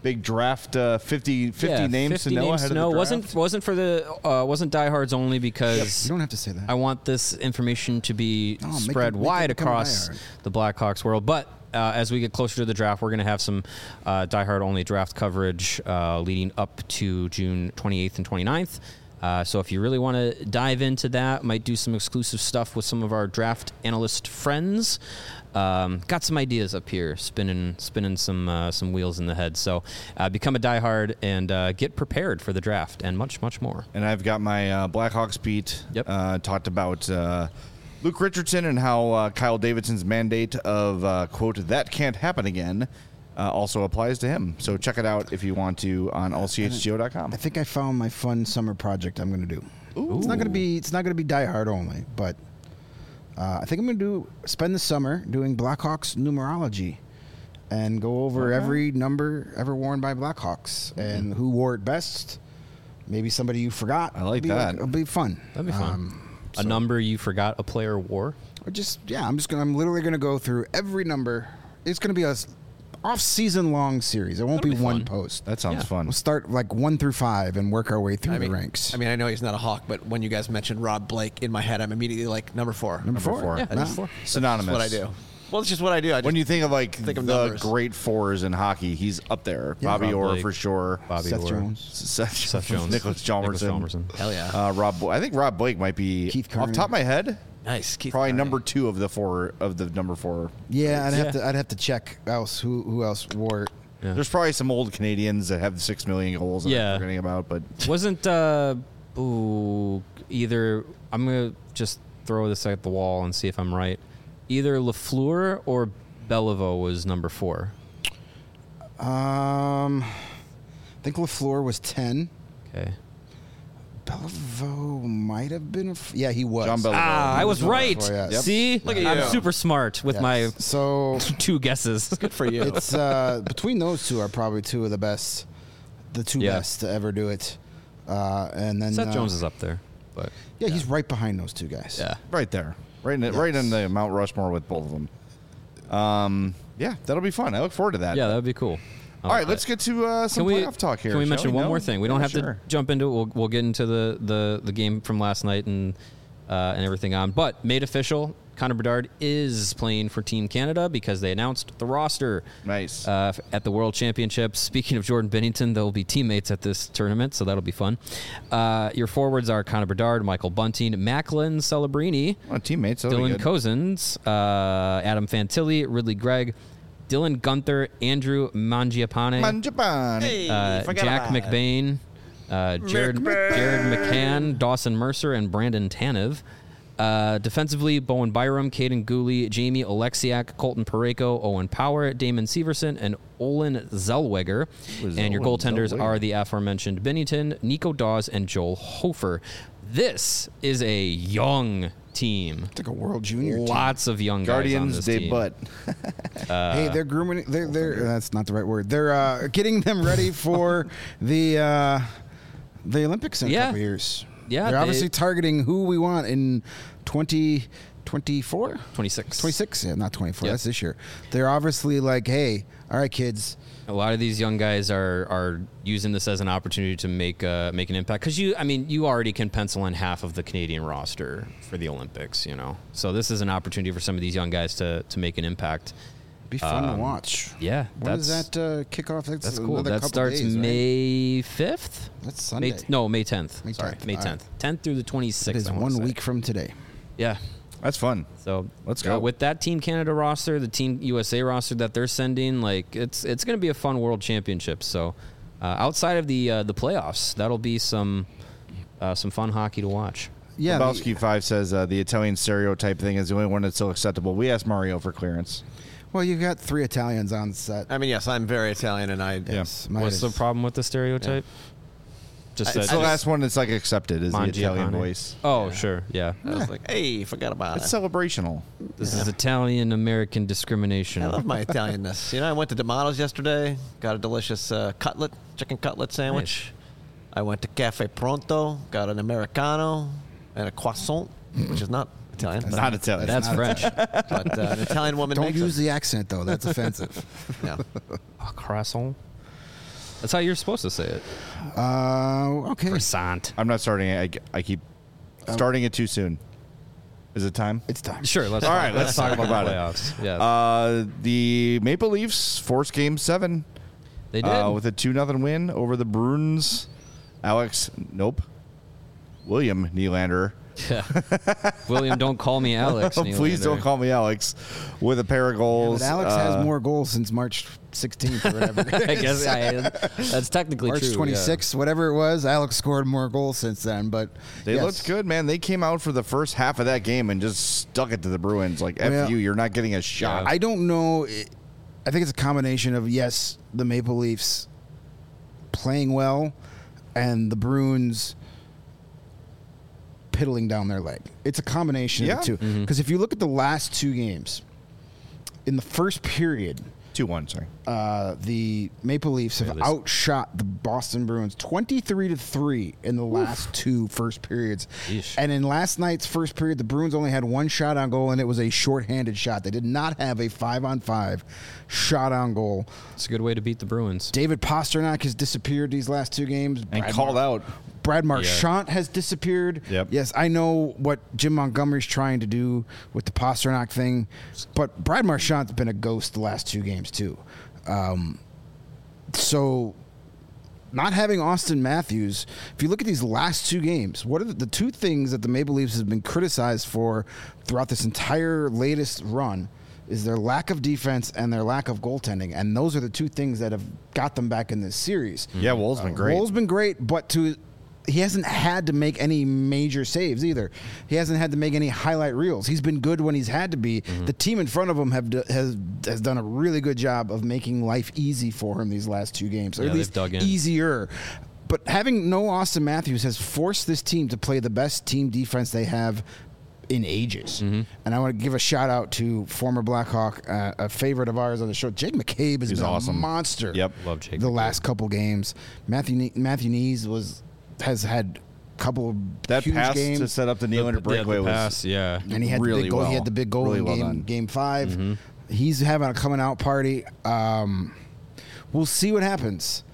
big draft uh, fifty, fifty yeah, names fifty to know names ahead to of know. the wasn't draft? wasn't for the uh, wasn't diehards only because You don't have to say that. I want this information to be No, make spread it- make it wide become a across diehard. the Blackhawks world. But uh, as we get closer to the draft, we're going to have some uh, diehard only draft coverage uh, leading up to June twenty-eighth and twenty-ninth. Uh, so if you really want to dive into that, might do some exclusive stuff with some of our draft analyst friends. Um, got some ideas up here, spinning spinning some uh, some wheels in the head. So uh, become a diehard and uh, get prepared for the draft and much, much more. And I've got my uh, Blackhawks beat. Yep. Uh, talked about uh, Luke Richardson and how uh, Kyle Davidson's mandate of, uh, quote, that can't happen again uh, also applies to him. So check it out if you want to on all c h g o dot com. I think I found my fun summer project I'm going to do. It's not going to be it's not going to be Die Hard only, but uh, I think I'm going to do spend the summer doing Blackhawks numerology and go over Okay. every number ever worn by Blackhawks and who wore it best. Maybe somebody you forgot. I like It'll be that. It'll be fun. That'd be fun. Um, A number you forgot a player wore. or just yeah, I'm just gonna I'm literally gonna go through every number. It's gonna be a s- off-season long series. It won't That'll be, be one fun. post. That sounds Yeah. fun. We'll start like one through five and work our way through I the mean, ranks. I mean, I know he's not a Hawk, but when you guys mentioned Rob Blake, in my head, I'm immediately like number four. number, four. four. Yeah, I number just- four. Synonymous. That's what I do. Well, it's just what I do. I just, When you think of like Think of the numbers. great fours in hockey, he's up there. Yeah. Bobby Rob Orr Blake. for sure. Bobby Seth Orr. Jones. Seth, Seth Jones. Nicholas Chalmerson. Nicholas Chalmerson. hell yeah, Uh, Rob, Bo- I think Rob Blake might be Keith off Kearney. the top of my head. nice. Keith Probably Kearney. number two of the four of the number four. Yeah, I'd have Yeah. to I'd have to check else who who else wore it. Yeah. There's probably some old Canadians that have six million goals. That Yeah. I'm forgetting about, but Wasn't uh, ooh, either? I'm gonna just throw this at the wall and see if I'm right. Either Lafleur or Beliveau was number four. Um, I think Lafleur was ten. Okay. Beliveau might have been. A f- yeah, he was. John Beliveau. Ah, I was number right. four, yes. Yep. See, Look at I'm you. super smart with Yes. my So two guesses. Good for you. it's uh, between those two are probably two of the best, the two Yeah. best to ever do it. Uh, and then Seth uh, Jones is up there, but Yeah, he's right behind those two guys. yeah. right there, right in the, Yes. right in the Mount Rushmore with both of them. Um, yeah, that'll be fun. I look forward to that. Yeah, that would be cool. All right, let's get to uh, some Can we playoff talk here. Can we shall mention one No? more thing? We Yeah, don't have sure. to jump into it. We'll, we'll get into the, the, the game from last night and uh, and everything on. But made official, Connor Bedard is playing for Team Canada because they announced the roster Nice. uh, f- at the World Championships. Speaking of Jordan Binnington, they'll be teammates at this tournament, so that'll be fun. Uh, your forwards are Connor Bedard, Michael Bunting, Macklin Celebrini, Oh, teammates. that'll be Dylan good. Cozens, uh, Adam Fantilli, Ridley Gregg, Dylan Gunther, Andrew Mangiapane, Mangiapane. uh, forgot Jack about it. McBain, uh, Jared, Jared McCann, Dawson Mercer, and Brandon Tanev. Uh, defensively, Bowen Byram, Caden Gooley, Jamie Alexiak, Colton Pareko, Owen Power, Damon Severson, and Olin Zellweger. Was And your Olin goaltenders Zellweger? are the aforementioned Binnington, Nico Dawes, and Joel Hofer. This is a young team. It's like a World Junior team. Lots of young guys on Guardians this de team. Butt. hey, they're grooming. They're, they're that's not the right word. They're uh, getting them ready for the uh, the Olympics in a Yeah. couple years. Yeah, they're they- obviously targeting who we want in twenty twenty-four. twenty-six. twenty-six, yeah, not twenty-four. Yep. That's this year. They're obviously like, hey, all right, kids. A lot of these young guys are are using this as an opportunity to make uh, make an impact because you, I mean, you already can pencil in half of the Canadian roster for the Olympics, you know. So this is an opportunity for some of these young guys to to make an impact. Be fun to Um, watch. Yeah, When does that's that uh, kick off? That's, that's cool. another That couple starts days, right? May fifth. That's Sunday. May, no, May tenth. May Sorry, tenth. May All right. tenth. Tenth through the It twenty-sixth. is I wanna one say. week from today. Yeah. That's fun. So Let's uh, go. with that Team Canada roster, the Team U S A roster that they're sending. Like it's it's going to be a fun World Championship. So uh, outside of the uh, the playoffs, that'll be some uh, some fun hockey to watch. Yeah. the- Lebowski five says uh, the Italian stereotype thing is the only one that's still acceptable. We asked Mario for clearance. well, you've got three Italians on set. I mean, yes, I'm very Italian, and I. Yes, What's the problem with the stereotype? Just It's that the last one that's like accepted is the Mangiapane. Italian voice. Oh, sure, yeah. I was like, hey, forgot about It's it. celebrational. This is Italian American discrimination. I love my Italianness. You know, I went to D'Amato's yesterday, got a delicious uh, cutlet, chicken cutlet sandwich. I went to Cafe Pronto, got an Americano and a croissant, which is not Italian. It's but, not Italian. That's not French. but uh, an Italian woman Don't makes use it. the accent though. That's offensive. No. A croissant. That's how you're supposed to say it. Uh, okay. Croissant. I'm not starting it. I, I keep starting it too soon. Is it time? It's time. Sure. Let's All talk, right, let's let's talk talk about, about the it. playoffs. Yeah, Uh, the Maple Leafs forced Game Seven they did. uh, with a two nothing win over the Bruins. Alex, nope. William Nylander. Yeah. William, don't call me Alex. Please Nylander. don't call me Alex. With a pair of goals. But Alex Uh, has more goals since March sixteenth or whatever. I guess I, that's technically March true. yeah. twenty-sixth, whatever it was. Alex scored more goals since then, but They yes. looked good, man. They came out for the first half of that game and just stuck it to the Bruins. Like, F Well, you, you're not getting a shot. I don't know. I think it's a combination of, yes, the Maple Leafs playing well and the Bruins piddling down their leg. It's a combination Yeah. of the two. Mm-hmm. Because if you look at the last two games, in the first period, two one, sorry. uh, the Maple Leafs have Yeah, this- outshot the Boston Bruins twenty-three to three in the last two first periods. Yeesh. And in last night's first period, the Bruins only had one shot on goal, and it was a shorthanded shot. They did not have a five on five shot on goal. It's a good way to beat the Bruins. David Pasternak has disappeared these last two games. And Brad called Mar- out. Brad Marchand has disappeared. Yep. Yes, I know what Jim Montgomery's trying to do with the Pasternak thing, but Brad Marchand's been a ghost the last two games too. Um, so, not having Austin Matthews, if you look at these last two games, what are the, the two things that the Maple Leafs have been criticized for throughout this entire latest run? Is their lack of defense and their lack of goaltending, and those are the two things that have got them back in this series. Yeah, Wool's been great. Wool's been great, but to he hasn't had to make any major saves either. He hasn't had to make any highlight reels. He's been good when he's had to be. Mm-hmm. The team in front of him have do, has has done a really good job of making life easy for him these last two games, or Yeah, at they've least dug in. easier. But having no Austin Matthews has forced this team to play the best team defense they have in ages. Mm-hmm. And I want to give a shout out to former Blackhawk, uh, a favorite of ours on the show, Jake McCabe has He's been awesome. a monster. Yep. Love Jake The McCabe. last couple games, Matthew Ne- Matthew Nees was has had a couple of That huge pass games. to set up the The- Nylander the- breakaway the was pass, yeah. and he had really the big goal. well. He had the big goal Really in well game done. game 5 Mm-hmm. He's having a coming out party. Um, we'll see what happens.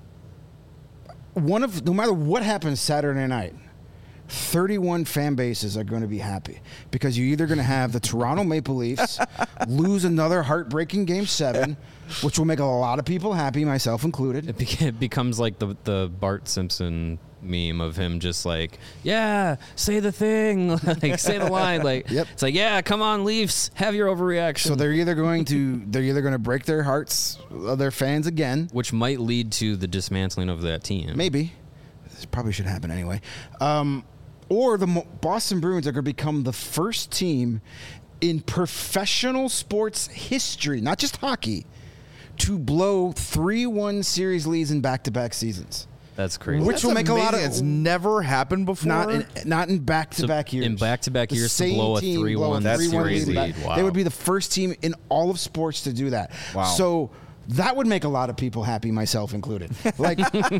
One of no matter what happens Saturday night, thirty-one fan bases are going to be happy because you're either going to have the Toronto Maple Leafs lose another heartbreaking game seven, which will make a lot of people happy, myself included. It, beca- it becomes like the the Bart Simpson meme of him just like, yeah, say the thing, like say the line, like Yep. it's like, yeah, come on, Leafs, have your overreaction. So they're either going to they're either going to break their hearts of their fans again. which might lead to the dismantling of that team. Maybe. This probably should happen anyway. Um, or the Mo- Boston Bruins are going to become the first team in professional sports history, not just hockey, to blow three one series leads in back-to-back seasons. That's crazy. Which That's will make a lot of- amazing. It's never happened before. Not in not in back-to-back So years. in back-to-back The years to same blow a team three blow one That's three one crazy. back. Wow. They would be the first team in all of sports to do that. Wow. So that would make a lot of people happy, myself included. Like,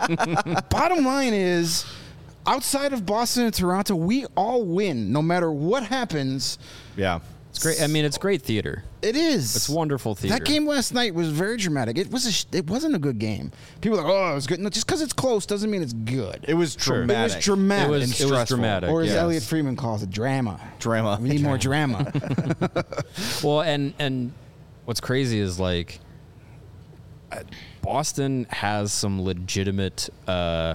bottom line is, outside of Boston and Toronto, we all win no matter what happens. yeah. It's great. I mean, it's great theater. It is. It's wonderful theater. That game last night was very dramatic. It was. A sh- it wasn't a good game. People are like, oh, it was good. No, just because it's close doesn't mean it's good. It was Sure. It was dramatic. It was dramatic. It was- and it was stressful. dramatic. or as yes. Elliot Freeman calls it, drama. Drama. We need more drama. Well, and and what's crazy is like uh, Boston has some legitimate uh,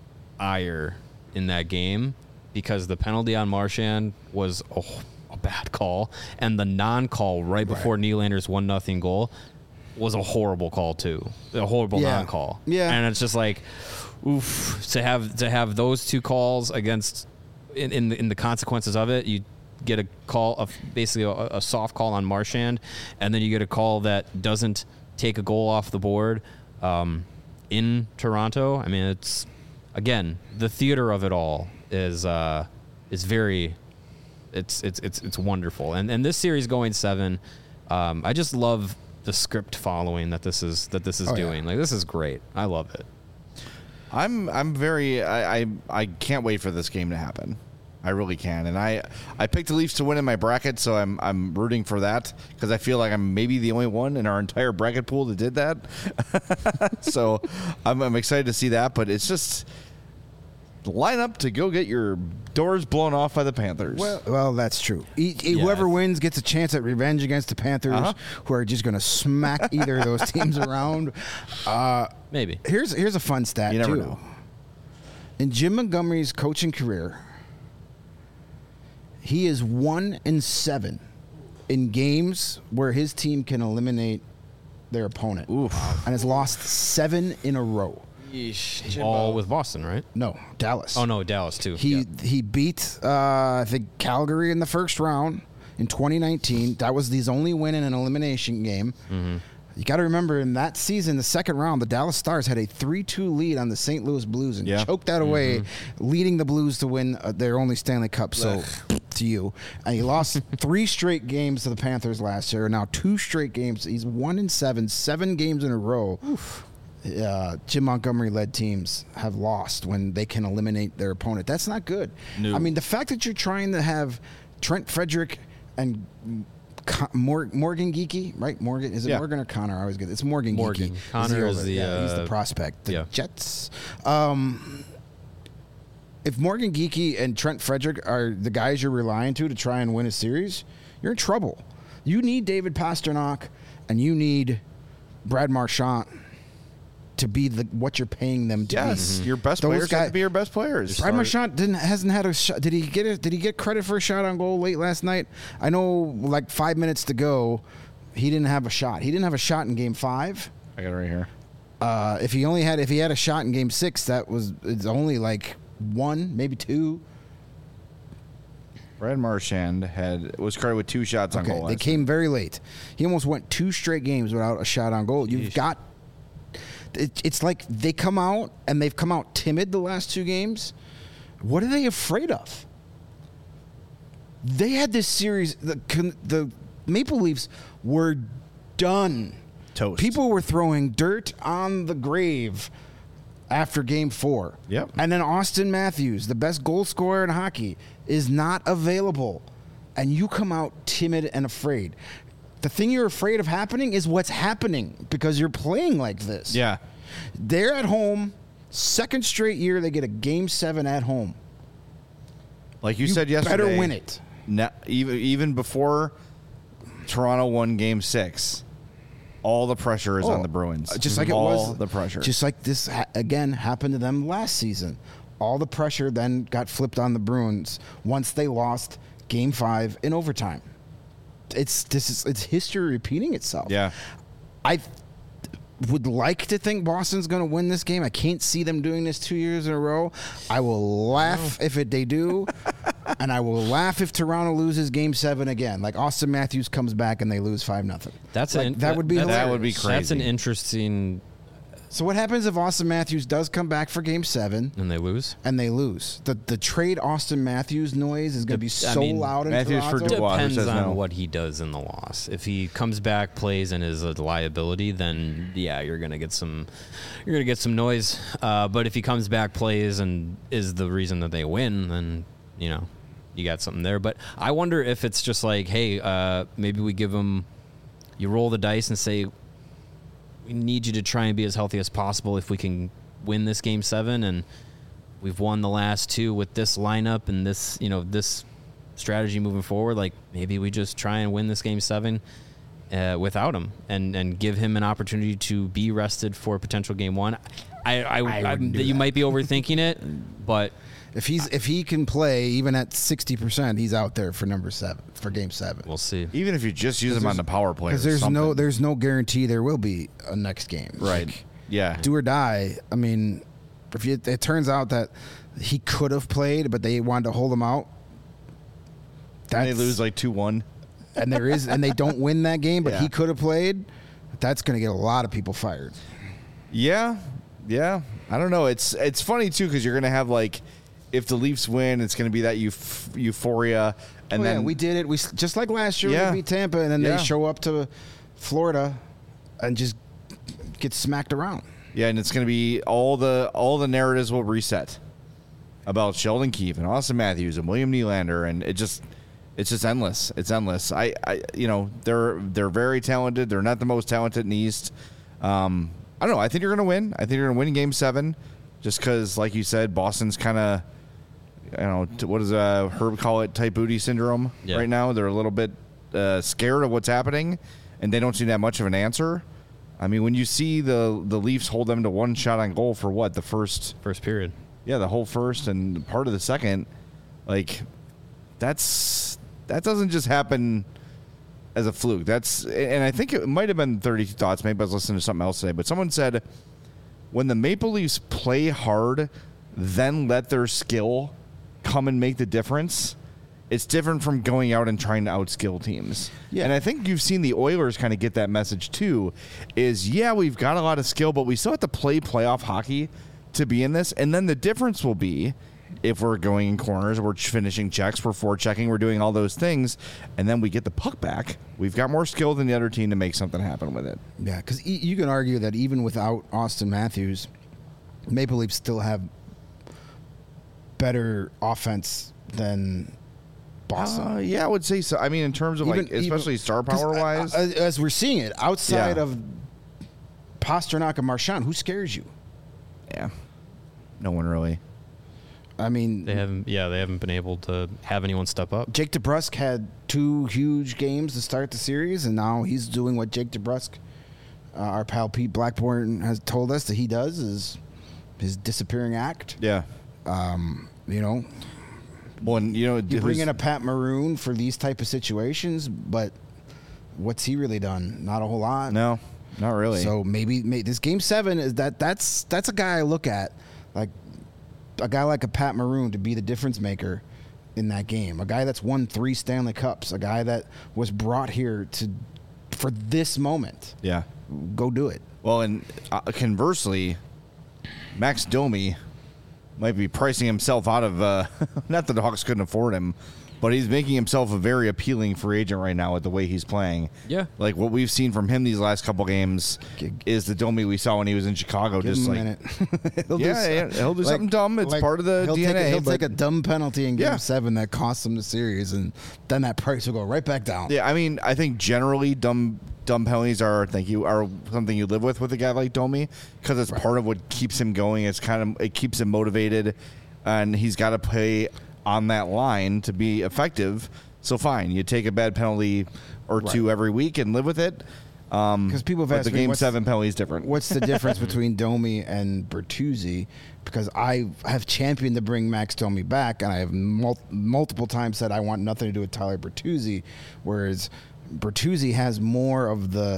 ire in that game because the penalty on Marchand was a, a bad call, and the non-call right before Nylander's one nothing goal was a horrible call too. A horrible Yeah. non-call. Yeah. and it's just like, oof, to have to have those two calls against in in the, in the consequences of it. You get a call of basically a, a soft call on Marchand, and then you get a call that doesn't take a goal off the board um, in Toronto. I mean, it's again the theater of it all is uh, is very it's it's it's it's wonderful. And and this series going seven, um, I just love the script following that this is that this is Oh, yeah. doing. Like this is great. I love it. I'm I'm very I, I I can't wait for this game to happen. I really can, and I I picked the Leafs to win in my bracket, so I'm I'm rooting for that because I feel like I'm maybe the only one in our entire bracket pool that did that. So I'm, I'm excited to see that, but it's just line up to go get your doors blown off by the Panthers. Well, well, that's true. E- e- Yeah. Whoever wins gets a chance at revenge against the Panthers, Uh-huh. who are just going to smack either of those teams around. Uh, Maybe. here's here's a fun stat You never too. know. In Jim Montgomery's coaching career, he is one and seven in games where his team can eliminate their opponent, Oof. and has lost seven in a row. All with Boston, right? No, Dallas. Oh no, Dallas too. He Yeah. he beat uh, I think Calgary in the first round in twenty nineteen. That was his only win in an elimination game. Mm-hmm. You got to remember, in that season, the second round, the Dallas Stars had a three two lead on the Saint Louis Blues and Yeah. choked that away, Mm-hmm. leading the Blues to win uh, their only Stanley Cup. So, to you. And he lost three straight games to the Panthers last year. Now two straight games. He's one and seven, seven games in a row. Uh, Jim Montgomery-led teams have lost when they can eliminate their opponent. That's not good. No. I mean, the fact that you're trying to have Trent Frederick and Con- Mor- Morgan Geekie, right? Morgan is it Yeah. Morgan or Connor? I always get it's Morgan. Morgan. Geekie. Connor is older- the, yeah, he's the uh, prospect. The yeah. Jets. Um, if Morgan Geekie and Trent Frederick are the guys you're relying to to try and win a series, you're in trouble. You need David Pasternak and you need Brad Marchand to be the what you're paying them to Yes, be. your best Those players have guy- to be your best players. Brad Marchand didn't hasn't had a shot. Did he get it? Did he get credit for a shot on goal late last night? I know, like five minutes to go, he didn't have a shot. He didn't have a shot in Game Five. I got it right here. Uh, if he only had, if he had a shot in Game Six, that was it's only like one, maybe two. Brad Marchand had was credited with two shots on Okay, goal. they last came very late. He almost went two straight games without a shot on goal. You've Yeesh. got. It, it's like they come out and they've come out timid the last two games. What are they afraid of? They had this series. The con- the Maple Leafs were done. Toast. People were throwing dirt on the grave after Game Four. Yep. And then Austin Matthews, the best goal scorer in hockey, is not available, and you come out timid and afraid. The thing you're afraid of happening is what's happening because you're playing like this. Yeah. They're at home. Second straight year they get a Game Seven at home. Like you, You said yesterday. better win it. na- even even before Toronto won Game Six, all the pressure is Oh, on the Bruins. uh, Just like it all was the pressure. Just like this ha- again happened to them last season. All the pressure then got flipped on the Bruins once they lost Game Five in overtime. It's this is it's history repeating itself. yeah. I would like to think Boston's going to win this game. I can't see them doing this two years in a row. I will laugh if it, they do, and I will laugh if Toronto loses Game Seven again. Like Austin Matthews comes back and they lose five nothing. That's like, an, that would be that's- That would be That's an crazy. interesting, So what happens if Austin Matthews does come back for Game Seven and they lose. and they lose? The the trade Austin Matthews noise is going to be I so mean, loud in Matthews for Toronto. Dubois. Who Depends says on no? what he does in the loss. If he comes back, plays, and is a liability, then yeah, you're gonna get some, you're gonna get some noise. Uh, but if he comes back, plays, and is the reason that they win, then you know, you got something there. But I wonder if it's just like, hey, uh, maybe we give him, you roll the dice and say, we need you to try and be as healthy as possible if we can win this Game Seven, and we've won the last two with this lineup and this, you know, this strategy moving forward. Like maybe we just try and win this Game Seven uh, without him, and and give him an opportunity to be rested for potential Game One. I, I, I, I wouldn't do you that. might be overthinking it, but If he's if he can play even at sixty percent, he's out there for number seven for Game Seven. we'll see. Even if you just use them on the power play, Because or there's no something. there's no guarantee there will be a next game. right. Like, Yeah. do or die. I mean, if you, it turns out that he could have played, but they wanted to hold him out, And they that's- lose like two one. and there is, and they don't win that game, but Yeah. he could have played. That's going to get a lot of people fired. Yeah, yeah. I don't know. It's it's funny too because you're gonna have like, if the Leafs win, it's gonna be that euph- euphoria, and oh, then yeah, we did it. We s- just like last year Yeah. we beat Tampa, and then Yeah. they show up to Florida and just get smacked around. yeah, and it's gonna be all the all the narratives will reset. about Sheldon Keefe and Austin Matthews and William Nylander, and it just it's just endless. It's endless. I, I you know they're they're very talented. They're not the most talented in the East. Um, I don't know. I think you're going to win. I think you're going to win Game Seven, just because, like you said, Boston's kind of, you know, t- what does uh, Herb call it? Tight booty syndrome Yeah. right now. They're a little bit uh, scared of what's happening, and they don't seem that much of an answer. I mean, when you see the the Leafs hold them to one shot on goal for what the first, First period. yeah, the whole first and part of the second, like that's that doesn't just happen as a fluke. That's and I think it might have been thirty-two Thoughts. Maybe I was listening to something else today, but someone said when the Maple Leafs play hard, then let their skill come and make the difference, it's different from going out and trying to outskill teams. Yeah. And I think you've seen the Oilers kind of get that message too, is yeah, we've got a lot of skill, but we still have to play playoff hockey to be in this. And then the difference will be if we're going in corners, we're finishing checks, we're forechecking, we're doing all those things, and then we get the puck back. We've got more skill than the other team to make something happen with it. Yeah, because e- you can argue that even without Austin Matthews, Maple Leafs still have better offense than Boston. Uh, yeah, I would say so. I mean, in terms of Even- like, especially even- star 'cause, power uh, wise. uh, as we're seeing it, outside Yeah. of Pasternak and Marchand, who scares you? yeah, no one really. I mean, They haven't. Yeah, they haven't been able to have anyone step up. Jake DeBrusk had two huge games to start the series, and now he's doing what Jake DeBrusk, uh, our pal Pete Blackburn, has told us that he does, is his disappearing act. Yeah. Um, you know, Well, and, you know, you bring in a Pat Maroon for these type of situations, but what's he really done? Not a whole lot. no, not really. So maybe, maybe this game seven is that that's that's a guy I look at, like a guy like a Pat Maroon to be the difference maker in that game. A guy that's won three Stanley Cups. A guy that was brought here to for this moment. yeah. Go do it. Well, and uh, conversely, Max Domi might be pricing himself out of. Uh, not that the Hawks couldn't afford him, but he's making himself a very appealing free agent right now with the way he's playing. Yeah. Like what we've seen from him these last couple games G- is the Domi we saw when he was in Chicago. Give just him a like minute. He'll do Yeah, some- yeah, he'll do something dumb. It's part of the he'll D N A, Take a, he'll but- take a dumb penalty in game Yeah. seven that costs him the series, and then that price will go right back down. Yeah, I mean, I think generally dumb dumb penalties are thank you are something you live with with a guy like Domi because it's part of what keeps him going. It's kind of it keeps him motivated, and he's got to play on that line to be effective. So fine, you take a bad penalty or two every week and live with it. Um, 'Cause people have but asked the me, game what's- seven penalty is different. What's the difference between Domi and Bertuzzi? Because I have championed to bring Max Domi back, and I have mul- multiple times said I want nothing to do with Tyler Bertuzzi, whereas Bertuzzi has more of the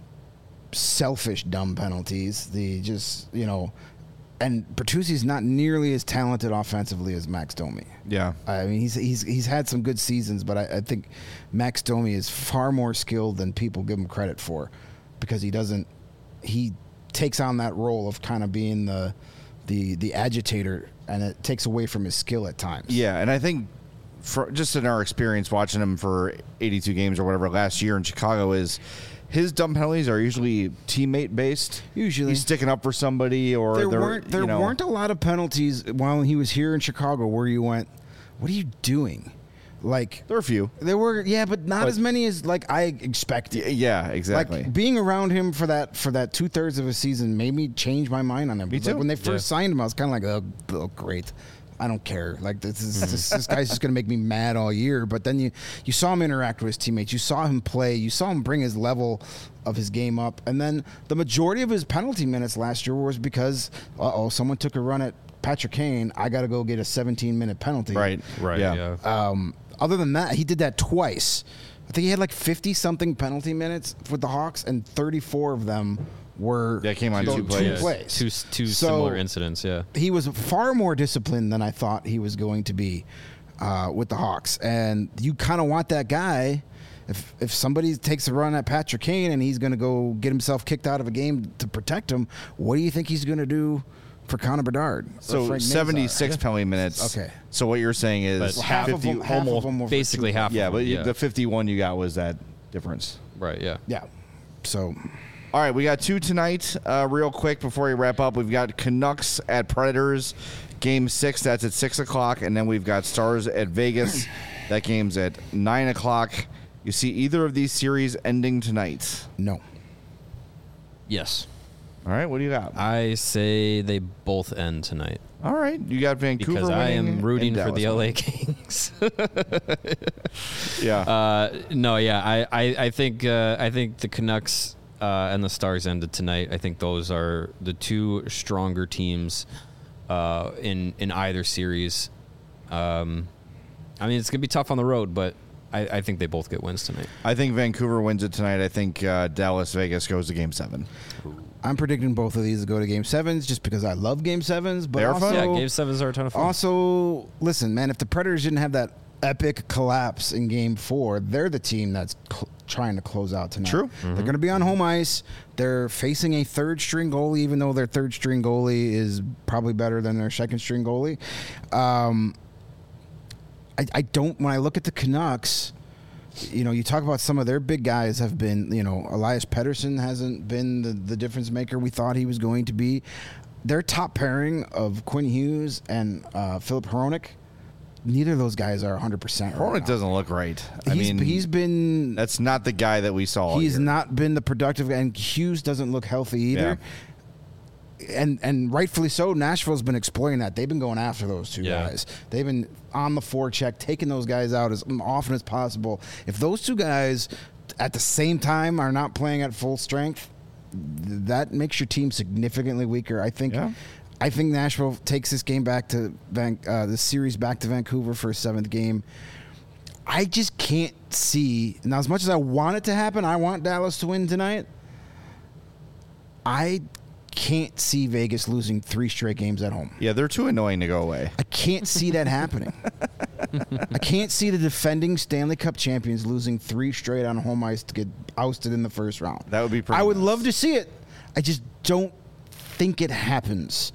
selfish dumb penalties, the just, you know, and Bertuzzi's not nearly as talented offensively as Max Domi. Yeah, I mean, he's he's he's had some good seasons, but I, I think Max Domi is far more skilled than people give him credit for, because he doesn't. He takes on that role of kind of being the the the agitator, and it takes away from his skill at times. yeah, and I think for, just in our experience watching him for eighty-two games or whatever last year in Chicago is. His dumb penalties are usually teammate based. Usually. he's sticking up for somebody, or there they're, weren't there you know, weren't a lot of penalties while he was here in Chicago where you went, "What are you doing?" Like There are a few. there were, yeah, but not But- as many as like I expected. Y- Yeah, exactly. Like being around him for that for that two thirds of a season made me change my mind on him. Me Like, too. when they first Yeah. signed him, I was kind of like, oh, oh, great. I don't care. Like this is this, this guy's just gonna make me mad all year. But then you you saw him interact with his teammates. You saw him play. You saw him bring his level of his game up. And then the majority of his penalty minutes last year was because uh oh someone took a run at Patrick Kane. I got to go get a seventeen minute penalty. right. Right. Yeah. Yeah. Um, other than that, he did that twice. I think he had like fifty something penalty minutes with the Hawks, and thirty-four of them were Yeah, came on those two plays. plays. Two two So- similar incidents. Yeah. He was far more disciplined than I thought he was going to be uh, with the Hawks, and you kind of want that guy. If if somebody takes a run at Patrick Kane and he's going to go get himself kicked out of a game to protect him, what do you think he's going to do for Connor Bedard? or So Frank Nazar? seventy-six penalty minutes. Okay. So what you're saying is But Well, half of fifty, them, half almost. of them were for Basically two. half. Yeah, of but them, you yeah. the fifty-one you got was that difference. Right. Yeah. Yeah. So All right, we got two tonight. Uh, real quick before we wrap up, we've got Canucks at Predators. Game six, that's at six o'clock. And then we've got Stars at Vegas. That game's at nine o'clock. You see either of these series ending tonight? No. Yes. All right, what do you got? I say they both end tonight. All right, you got Vancouver Because I winning am rooting and for the Dallas L A winning. Kings. Yeah. Uh, no, yeah, I, I, I think uh, I think the Canucks uh, and the Stars ended tonight. I think those are the two stronger teams uh, in in either series. Um, I mean, it's gonna be tough on the road, but I, I think they both get wins tonight. I think Vancouver wins it tonight. I think uh, Dallas Vegas goes to Game Seven. I'm predicting both of these to go to Game Sevens just because I love Game Sevens. But They are also, fun. Yeah, Game Sevens are a ton of fun. Also, listen, man, if the Predators didn't have that epic collapse in Game Four, they're the team that's cl- trying to close out tonight. True. They're going to be on home ice. They're facing a third string goalie, even though their third string goalie is probably better than their second string goalie. Um, I, I don't. When I look at the Canucks, you know, you talk about some of their big guys have been, you know, Elias Pettersson hasn't been the, the difference maker we thought he was going to be. Their top pairing of Quinn Hughes and uh, Philip Hronik, neither of those guys are one hundred percent right Hronik now. doesn't look right. I He's, mean, he's been that's not the guy that we saw. all he's year. not been the productive, and Hughes doesn't look healthy either. And and rightfully so. Nashville's been exploiting that. They've been going after those two Yeah. guys. They've been on the forecheck, taking those guys out as often as possible. If those two guys at the same time are not playing at full strength, th- that makes your team significantly weaker. I think. Yeah. I think Nashville takes this game back to Van, uh, the series back to Vancouver for a seventh game. I just can't see now. As much as I want it to happen, I want Dallas to win tonight. I can't see Vegas losing three straight games at home. Yeah, they're too annoying to go away. I can't see that happening. I can't see the defending Stanley Cup champions losing three straight on home ice to get ousted in the first round. That would be pretty I would nice. love to see it. I just don't think it happens.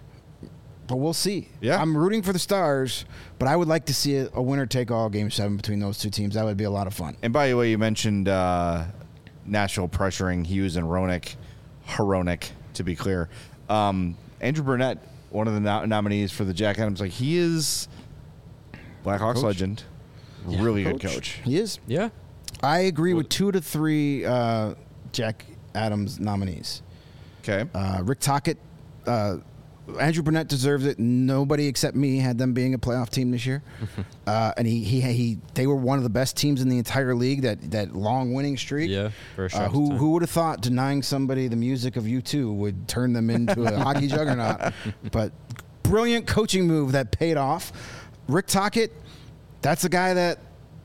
But we'll see. Yeah. I'm rooting for the Stars, but I would like to see a, a winner-take-all Game seven between those two teams. That would be a lot of fun. And by the way, you mentioned uh, Nashville pressuring Hughes and Hronik. Hronik, to be clear. Um, Andrew Burnett, one of the no- nominees for the Jack Adams, like he is Blackhawks Coach. legend. Really good coach. He is. Yeah. I agree with two to three uh, Jack Adams nominees. Okay. Uh, Rick Tocchet, uh, Andrew Burnett deserves it. Nobody except me had them being a playoff team this year, uh, and he, he he they were one of the best teams in the entire league. That that long winning streak. Yeah, for a Uh, short who time. who would have thought denying somebody the music of U two would turn them into a hockey juggernaut? But brilliant coaching move that paid off. Rick Tocchet, that's a guy that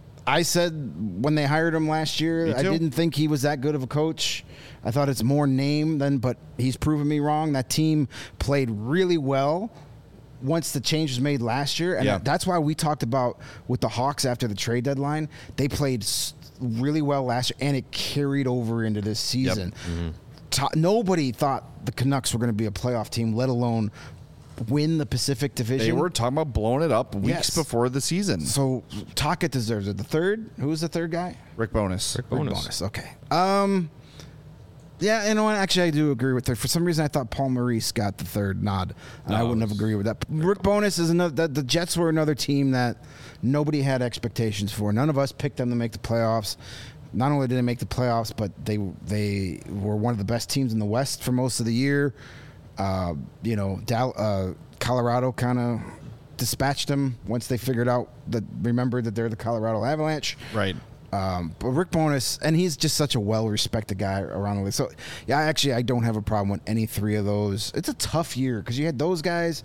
I said when they hired him last year, Me I too. didn't think he was that good of a coach. I thought it's more name than, but he's proven me wrong. That team played really well once the change was made last year. And Yeah. that's why we talked about with the Hawks after the trade deadline, they played s- really well last year, and it carried over into this season. To- nobody thought the Canucks were going to be a playoff team, let alone win the Pacific Division. They were talking about blowing it up weeks Yes. before the season. So Tocchet deserves it. The third, who was the third guy? Rick Bonus. Rick Rick Bonus. Okay. Um. Yeah, you know what? Actually, I do agree with third. For some reason, I thought Paul Maurice got the third nod, and I No, wouldn't have it's- agreed with that. Rick Bonus is another. The, the Jets were another team that nobody had expectations for. None of us picked them to make the playoffs. Not only did they make the playoffs, but they they were one of the best teams in the West for most of the year. Uh, you know, Dal, uh, Colorado kind of dispatched them once they figured out that remembered that they're the Colorado Avalanche. Right. Um, but Rick Bonus, and he's just such a well-respected guy around the league. So, yeah, actually, I don't have a problem with any three of those. It's a tough year because you had those guys.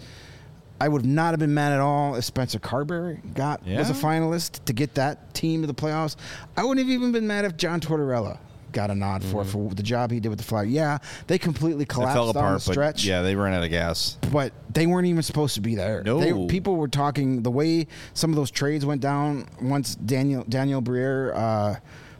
I would not have been mad at all if Spencer Carberry got was a Yeah. finalist to get that team to the playoffs. I wouldn't have even been mad if John Tortorella got a nod for for the job he did with the Flyers. Yeah, they completely It collapsed fell on apart, the but stretch. yeah, they ran out of gas. But they weren't even supposed to be there. No. They, people were talking the way some of those trades went down once Daniel Daniel Briere uh,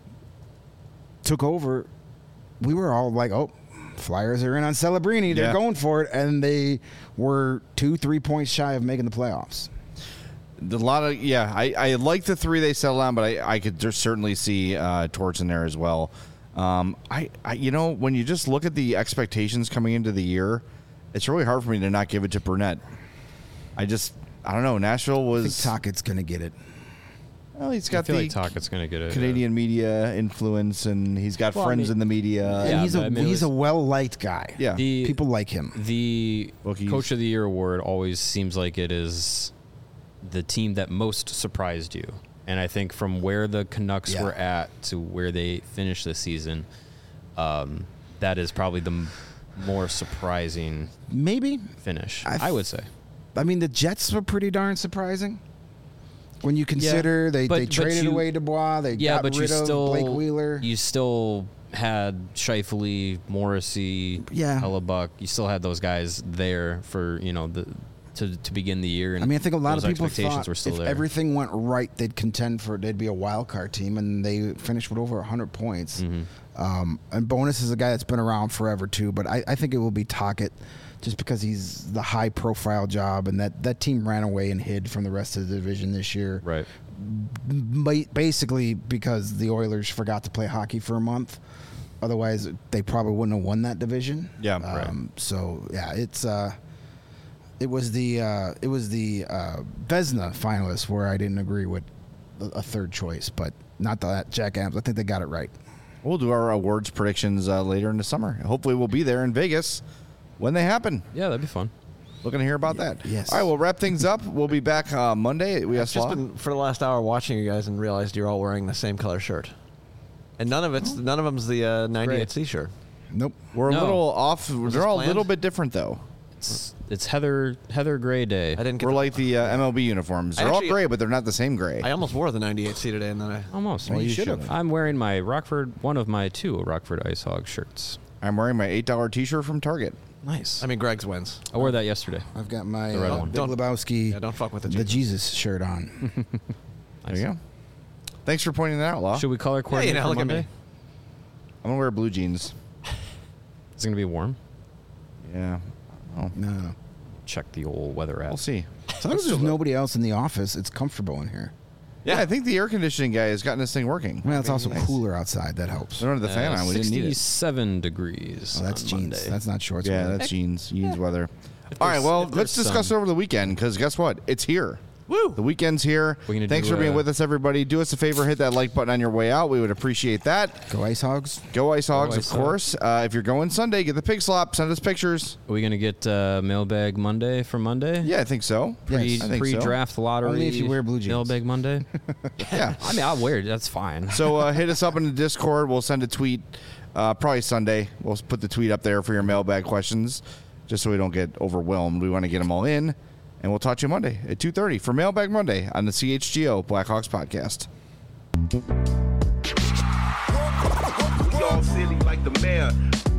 took over. We were all like, "Oh, Flyers are in on Celebrini. They're Yeah. going for it," and they were two, three points shy of making the playoffs. A lot of yeah, I, I like the three they settled on, but I, I could just certainly see uh, Torts in there as well. Um, I, I you know when you just look at the expectations coming into the year, it's really hard for me to not give it to Burnett. I just, I don't know. Nashville I think was. Tockett's going to get it. Well, he's I got feel the like Tockett's going to get it. Canadian media influence, and he's got Well, I friends mean- in the media. And Yeah, he's a but I mean, it he's a was- well-liked guy. Yeah. The, People like him. The Bookies. Coach of the Year award always seems like it is the team that most surprised you. And I think from where the Canucks Yeah. were at to where they finished the season, um, that is probably the m- more surprising Maybe. finish, I I, would say. I mean, the Jets were pretty darn surprising. When you consider they, but- they but traded you- away Dubois, they Yeah, got but rid you of still Blake Wheeler. you still had Scheifele, Morrissey, Yeah. Hellebuck. You still had those guys there for you know the to to begin the year. And I mean, I think a lot of those people expectations thought were still if there. everything went right, they'd contend for they'd be a wild card team, and they finished with over one hundred points. Mm-hmm. Um, and Bonus is a guy that's been around forever too, but I, I think it will be Tocchet, just because he's the high profile job, and that, that team ran away and hid from the rest of the division this year. Right. Ba- Basically, because the Oilers forgot to play hockey for a month. Otherwise, they probably wouldn't have won that division. Yeah, right. Um, so yeah, it's uh, it was the uh, it was the uh, Vezina finalists where I didn't agree with a, a third choice, but not that Jack Adams. I think they got it right. We'll do our awards predictions uh, later in the summer. Hopefully, we'll be there in Vegas when they happen. Yeah, that'd be fun. Looking to hear about that. yes. All right, we'll wrap things up. We'll be back uh, Monday. We have I've just been for the last hour watching you guys and realized you're all wearing the same color shirt, and none of it's none of them's the uh, ninety-eight C shirt. Nope. We're a No. little off. this They're all a planned? little bit different, though. It's it's Heather Heather Gray Day. I didn't. Get We're the- like the uh, M L B uniforms. I They're actually- all gray, but they're not the same gray. I almost wore the ninety-eight C today, and then I. Almost. Well, you should've. I'm wearing my Rockford, one of my two Rockford Ice Hog shirts. I'm wearing my eight dollar T-shirt from Target. Nice. I mean, Greg's wins. I wore that yesterday. I've got my The red uh, one. Big Don't- Lebowski, Yeah, don't fuck with the the Jesus. Jesus shirt on. There you go. Thanks for pointing that out, Law. Should we color Hey, coordinate now for look at Monday? me. I'm gonna wear blue jeans. It's gonna be warm. Yeah. Oh, No, no. Check the old weather app. we'll see. As long as there's nobody else in the office, it's comfortable in here. Yeah, I think the air conditioning guy has gotten this thing working. Well, it's also Nice. cooler outside. That helps. We don't have the fan Uh, on. We didn't need it. sixty-seven degrees. Oh, that's on jeans. Monday. That's not shorts. Yeah, weather. that's jeans. Jeans weather. If All right, there's- well, if let's there's discuss sun. it over the weekend because guess what? It's here. Woo! The weekend's here. We're gonna Thanks do, for being uh, with us, everybody. Do us a favor, hit that like button on your way out. We would appreciate that. Go Ice Hogs. Go Ice Hogs, Ice of course. Uh, if you're going Sunday, get the pig slop. Send us pictures. Are we gonna get uh, mailbag Monday for Monday? Yeah, I think so. Pre Yes. I think so. pre-draft lottery. Only if you wear blue jeans. Mailbag Monday. Yeah. I mean, I'll wear it. That's fine. So uh, hit us up in the Discord. We'll send a tweet. Uh, probably Sunday. We'll put the tweet up there for your mailbag questions, just so we don't get overwhelmed. We want to get them all in, and we'll talk to you Monday at two thirty for Mailbag Monday on the C H G O Blackhawks podcast. We all silly like the mayor.